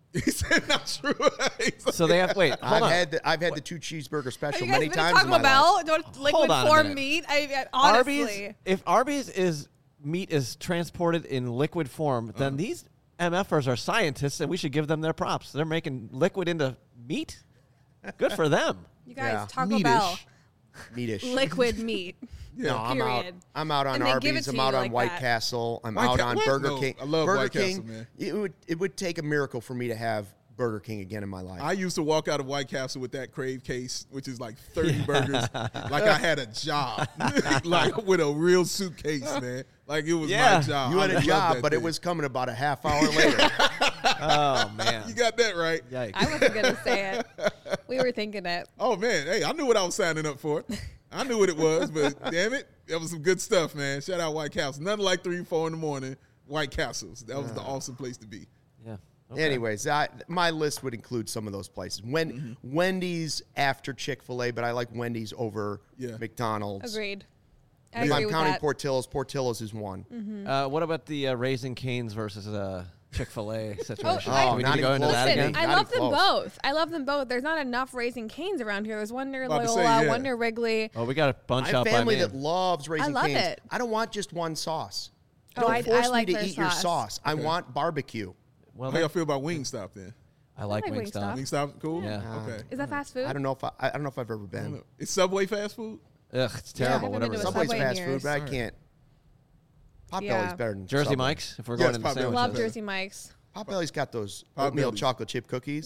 [SPEAKER 2] He said not true.
[SPEAKER 3] So they have wait. Hold on.
[SPEAKER 1] I've had the 2 cheeseburger special
[SPEAKER 4] you guys
[SPEAKER 1] many
[SPEAKER 4] been
[SPEAKER 1] times in
[SPEAKER 4] Taco
[SPEAKER 1] my life.
[SPEAKER 4] Bell? Don't
[SPEAKER 3] Hold
[SPEAKER 4] liquid
[SPEAKER 3] on a
[SPEAKER 4] form
[SPEAKER 3] minute.
[SPEAKER 4] meat. Honestly,
[SPEAKER 3] Arby's. If Arby's is meat is transported in liquid form, then these MFers are scientists, and we should give them their props. They're making liquid into meat. Good for them.
[SPEAKER 4] you guys,
[SPEAKER 1] Yeah.
[SPEAKER 4] Taco
[SPEAKER 2] Meatish.
[SPEAKER 4] Bell,
[SPEAKER 1] Meatish.
[SPEAKER 4] liquid meat.
[SPEAKER 1] No, I'm out.
[SPEAKER 4] Period.
[SPEAKER 1] I'm out on
[SPEAKER 4] And they give
[SPEAKER 1] Arby's.
[SPEAKER 4] it to
[SPEAKER 1] I'm out
[SPEAKER 4] you
[SPEAKER 1] on
[SPEAKER 4] like
[SPEAKER 1] White
[SPEAKER 4] that.
[SPEAKER 1] Castle. I'm
[SPEAKER 2] White
[SPEAKER 1] out
[SPEAKER 2] Ca-
[SPEAKER 1] on
[SPEAKER 2] what?
[SPEAKER 1] Burger
[SPEAKER 2] No,
[SPEAKER 1] King.
[SPEAKER 2] I love
[SPEAKER 1] Burger
[SPEAKER 2] White
[SPEAKER 1] King.
[SPEAKER 2] Castle, man.
[SPEAKER 1] It would take a miracle for me to have Burger King again in my life.
[SPEAKER 2] I used to walk out of White Castle with that Crave case, which is like 30 burgers, like I had a job, like with a real suitcase, man. Like it was
[SPEAKER 3] Yeah.
[SPEAKER 2] my job.
[SPEAKER 1] you had
[SPEAKER 2] I
[SPEAKER 1] a
[SPEAKER 2] love
[SPEAKER 1] job,
[SPEAKER 2] that
[SPEAKER 1] but it
[SPEAKER 2] thing.
[SPEAKER 1] was coming about a half hour later.
[SPEAKER 3] Oh man.
[SPEAKER 2] You got that right.
[SPEAKER 3] Yikes.
[SPEAKER 4] I wasn't gonna say it. We were thinking it.
[SPEAKER 2] Oh man, hey, I knew what I was signing up for. I knew what it was, but damn it, that was some good stuff, man. Shout out White Castle. Nothing like 3, 4 in the morning. White Castles. That was the awesome place to be.
[SPEAKER 3] Yeah. Okay.
[SPEAKER 1] Anyways, my list would include some of those places. Wendy's after Chick-fil-A, but I like Wendy's over
[SPEAKER 2] Yeah.
[SPEAKER 1] McDonald's.
[SPEAKER 4] Agreed. I
[SPEAKER 1] If
[SPEAKER 4] agree
[SPEAKER 1] I'm
[SPEAKER 4] with
[SPEAKER 1] counting
[SPEAKER 4] that.
[SPEAKER 1] Portillo's is one.
[SPEAKER 3] What about the Raising Cane's versus Chick-fil-A situation?
[SPEAKER 4] I-
[SPEAKER 3] Do we need
[SPEAKER 1] not
[SPEAKER 3] to go
[SPEAKER 1] even
[SPEAKER 3] into
[SPEAKER 1] close.
[SPEAKER 3] that
[SPEAKER 4] Listen,
[SPEAKER 3] again?
[SPEAKER 1] Not
[SPEAKER 4] I love
[SPEAKER 1] even
[SPEAKER 4] them
[SPEAKER 1] close.
[SPEAKER 4] both. I love them both. There's not enough Raising Cane's around here. There's one near
[SPEAKER 2] About to
[SPEAKER 4] Loyola,
[SPEAKER 2] say, yeah.
[SPEAKER 4] one near Wrigley.
[SPEAKER 3] Oh, we got a
[SPEAKER 1] I
[SPEAKER 3] bunch
[SPEAKER 1] have
[SPEAKER 3] out by
[SPEAKER 1] family
[SPEAKER 3] me.
[SPEAKER 1] that loves Raising
[SPEAKER 4] love
[SPEAKER 1] Cane's.
[SPEAKER 4] it.
[SPEAKER 1] I don't want just one sauce.
[SPEAKER 4] Oh,
[SPEAKER 1] Don't
[SPEAKER 4] I
[SPEAKER 1] force
[SPEAKER 4] like
[SPEAKER 1] me to
[SPEAKER 4] their
[SPEAKER 1] eat your
[SPEAKER 4] sauce.
[SPEAKER 1] sauce. I want barbecue.
[SPEAKER 3] Well,
[SPEAKER 2] How y'all feel about Wingstop then?
[SPEAKER 3] I like
[SPEAKER 4] like
[SPEAKER 3] Wingstop.
[SPEAKER 4] Wingstop.
[SPEAKER 2] Wingstop, cool.
[SPEAKER 3] Yeah.
[SPEAKER 2] Okay.
[SPEAKER 4] Is that fast food?
[SPEAKER 1] I don't know if I don't know if I've ever
[SPEAKER 2] I don't
[SPEAKER 1] been.
[SPEAKER 2] know. Is Subway fast food?
[SPEAKER 3] Ugh, it's
[SPEAKER 4] Yeah, I
[SPEAKER 3] terrible.
[SPEAKER 4] haven't
[SPEAKER 3] Whatever.
[SPEAKER 4] been
[SPEAKER 3] it
[SPEAKER 4] to a
[SPEAKER 3] is.
[SPEAKER 1] Subway's
[SPEAKER 4] Subway in
[SPEAKER 1] fast food,
[SPEAKER 4] years.
[SPEAKER 1] but I
[SPEAKER 2] Alright.
[SPEAKER 1] can't. Potbelly's
[SPEAKER 4] Yeah.
[SPEAKER 1] better than
[SPEAKER 3] Jersey
[SPEAKER 1] Subway.
[SPEAKER 3] Mike's. If we're
[SPEAKER 2] Yes,
[SPEAKER 3] going into
[SPEAKER 2] Potbelly's.
[SPEAKER 3] sandwiches.
[SPEAKER 4] Love Jersey Mike's.
[SPEAKER 1] Potbelly's got those
[SPEAKER 2] Potbelly's.
[SPEAKER 1] oatmeal chocolate chip cookies.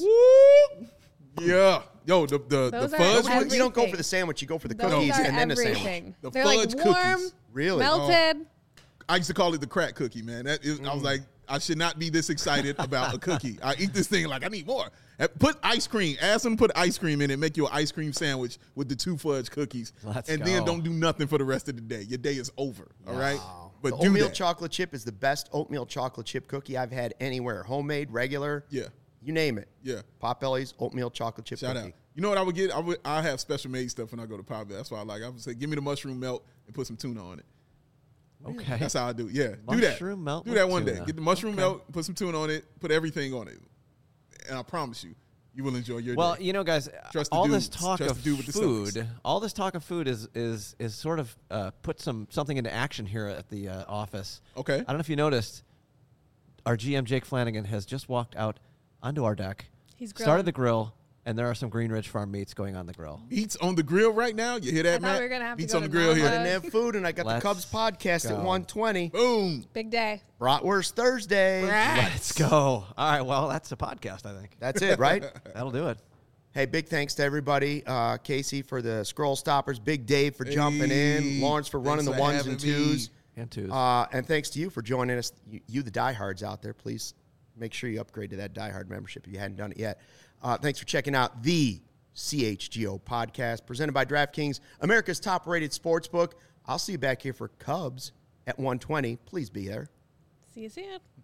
[SPEAKER 2] Yeah. Yo, the
[SPEAKER 4] Those are
[SPEAKER 2] fudge
[SPEAKER 4] every-
[SPEAKER 2] ones?
[SPEAKER 1] You don't go for
[SPEAKER 4] everything.
[SPEAKER 1] the sandwich. You go for the
[SPEAKER 4] Those
[SPEAKER 1] cookies
[SPEAKER 4] are
[SPEAKER 1] and then the sandwich.
[SPEAKER 4] everything.
[SPEAKER 2] The
[SPEAKER 4] They're like
[SPEAKER 2] fudge
[SPEAKER 4] warm,
[SPEAKER 2] cookies.
[SPEAKER 1] Really?
[SPEAKER 4] melted.
[SPEAKER 2] I used to call it the crack cookie, man. I was like, I should not be this excited about a cookie. I eat this thing like I need more. Put ice cream. Ask them to put ice cream in it. Make you an ice cream sandwich with the 2 fudge cookies.
[SPEAKER 3] Let's
[SPEAKER 2] and then
[SPEAKER 3] go.
[SPEAKER 2] don't do nothing for the rest of the day. Your day is over. All right? But
[SPEAKER 1] the
[SPEAKER 2] do
[SPEAKER 1] oatmeal
[SPEAKER 2] that.
[SPEAKER 1] chocolate chip is the best oatmeal chocolate chip cookie I've had anywhere. Homemade, regular.
[SPEAKER 2] Yeah.
[SPEAKER 1] You name it.
[SPEAKER 2] Yeah.
[SPEAKER 1] Potbelly's oatmeal chocolate chip
[SPEAKER 2] Shout
[SPEAKER 1] cookie.
[SPEAKER 2] out. You know what I would get? I have special made stuff when I go to Potbelly. That's why I like. I would say, give me the mushroom melt and put some tuna on it.
[SPEAKER 3] Okay.
[SPEAKER 2] That's how I do. Yeah, do that.
[SPEAKER 3] Mushroom melt
[SPEAKER 2] Do
[SPEAKER 3] with
[SPEAKER 2] that one
[SPEAKER 3] tuna.
[SPEAKER 2] day. Get the mushroom melt, put some tuna on it, put everything on it, and I promise you, you will enjoy your
[SPEAKER 3] Well,
[SPEAKER 2] day.
[SPEAKER 3] you know, guys,
[SPEAKER 2] Trust the
[SPEAKER 3] all this
[SPEAKER 2] dudes.
[SPEAKER 3] talk
[SPEAKER 2] Trust
[SPEAKER 3] of
[SPEAKER 2] the dude with the
[SPEAKER 3] food,
[SPEAKER 2] Celtics.
[SPEAKER 3] all this talk of food is sort of put something into action here at the office.
[SPEAKER 2] Okay.
[SPEAKER 3] I don't know if you noticed, our GM Jake Flanagan has just walked out onto our deck,
[SPEAKER 4] He's
[SPEAKER 3] started
[SPEAKER 4] grilling.
[SPEAKER 3] the grill, and there are some Green Ridge Farm meats going on the grill.
[SPEAKER 2] Meat's on the grill right now. You hear that,
[SPEAKER 4] I thought
[SPEAKER 2] Matt?
[SPEAKER 4] we were gonna have to
[SPEAKER 2] Meat's
[SPEAKER 4] go
[SPEAKER 2] on the
[SPEAKER 4] to
[SPEAKER 2] grill
[SPEAKER 1] I
[SPEAKER 2] here.
[SPEAKER 1] didn't have food, and I got
[SPEAKER 3] Let's
[SPEAKER 1] the Cubs podcast at
[SPEAKER 3] go.
[SPEAKER 1] 1:20.
[SPEAKER 2] Boom.
[SPEAKER 4] Big day.
[SPEAKER 1] Bratwurst Thursday.
[SPEAKER 3] Let's go. All right, well, that's a podcast, I think.
[SPEAKER 1] That's it, right?
[SPEAKER 3] That'll do it.
[SPEAKER 1] Hey, big thanks to everybody. Casey for the scroll stoppers. Big Dave for jumping in.
[SPEAKER 2] Hey,
[SPEAKER 1] Lawrence for running the
[SPEAKER 2] thanks for
[SPEAKER 1] ones and
[SPEAKER 2] having me.
[SPEAKER 1] twos.
[SPEAKER 3] And twos.
[SPEAKER 1] And thanks to you for joining us. You the diehards out there, please make sure you upgrade to that diehard membership if you hadn't done it yet. Thanks for checking out the CHGO podcast presented by DraftKings, America's top-rated sportsbook. I'll see you back here for Cubs at 1:20. Please be there.
[SPEAKER 4] See you soon.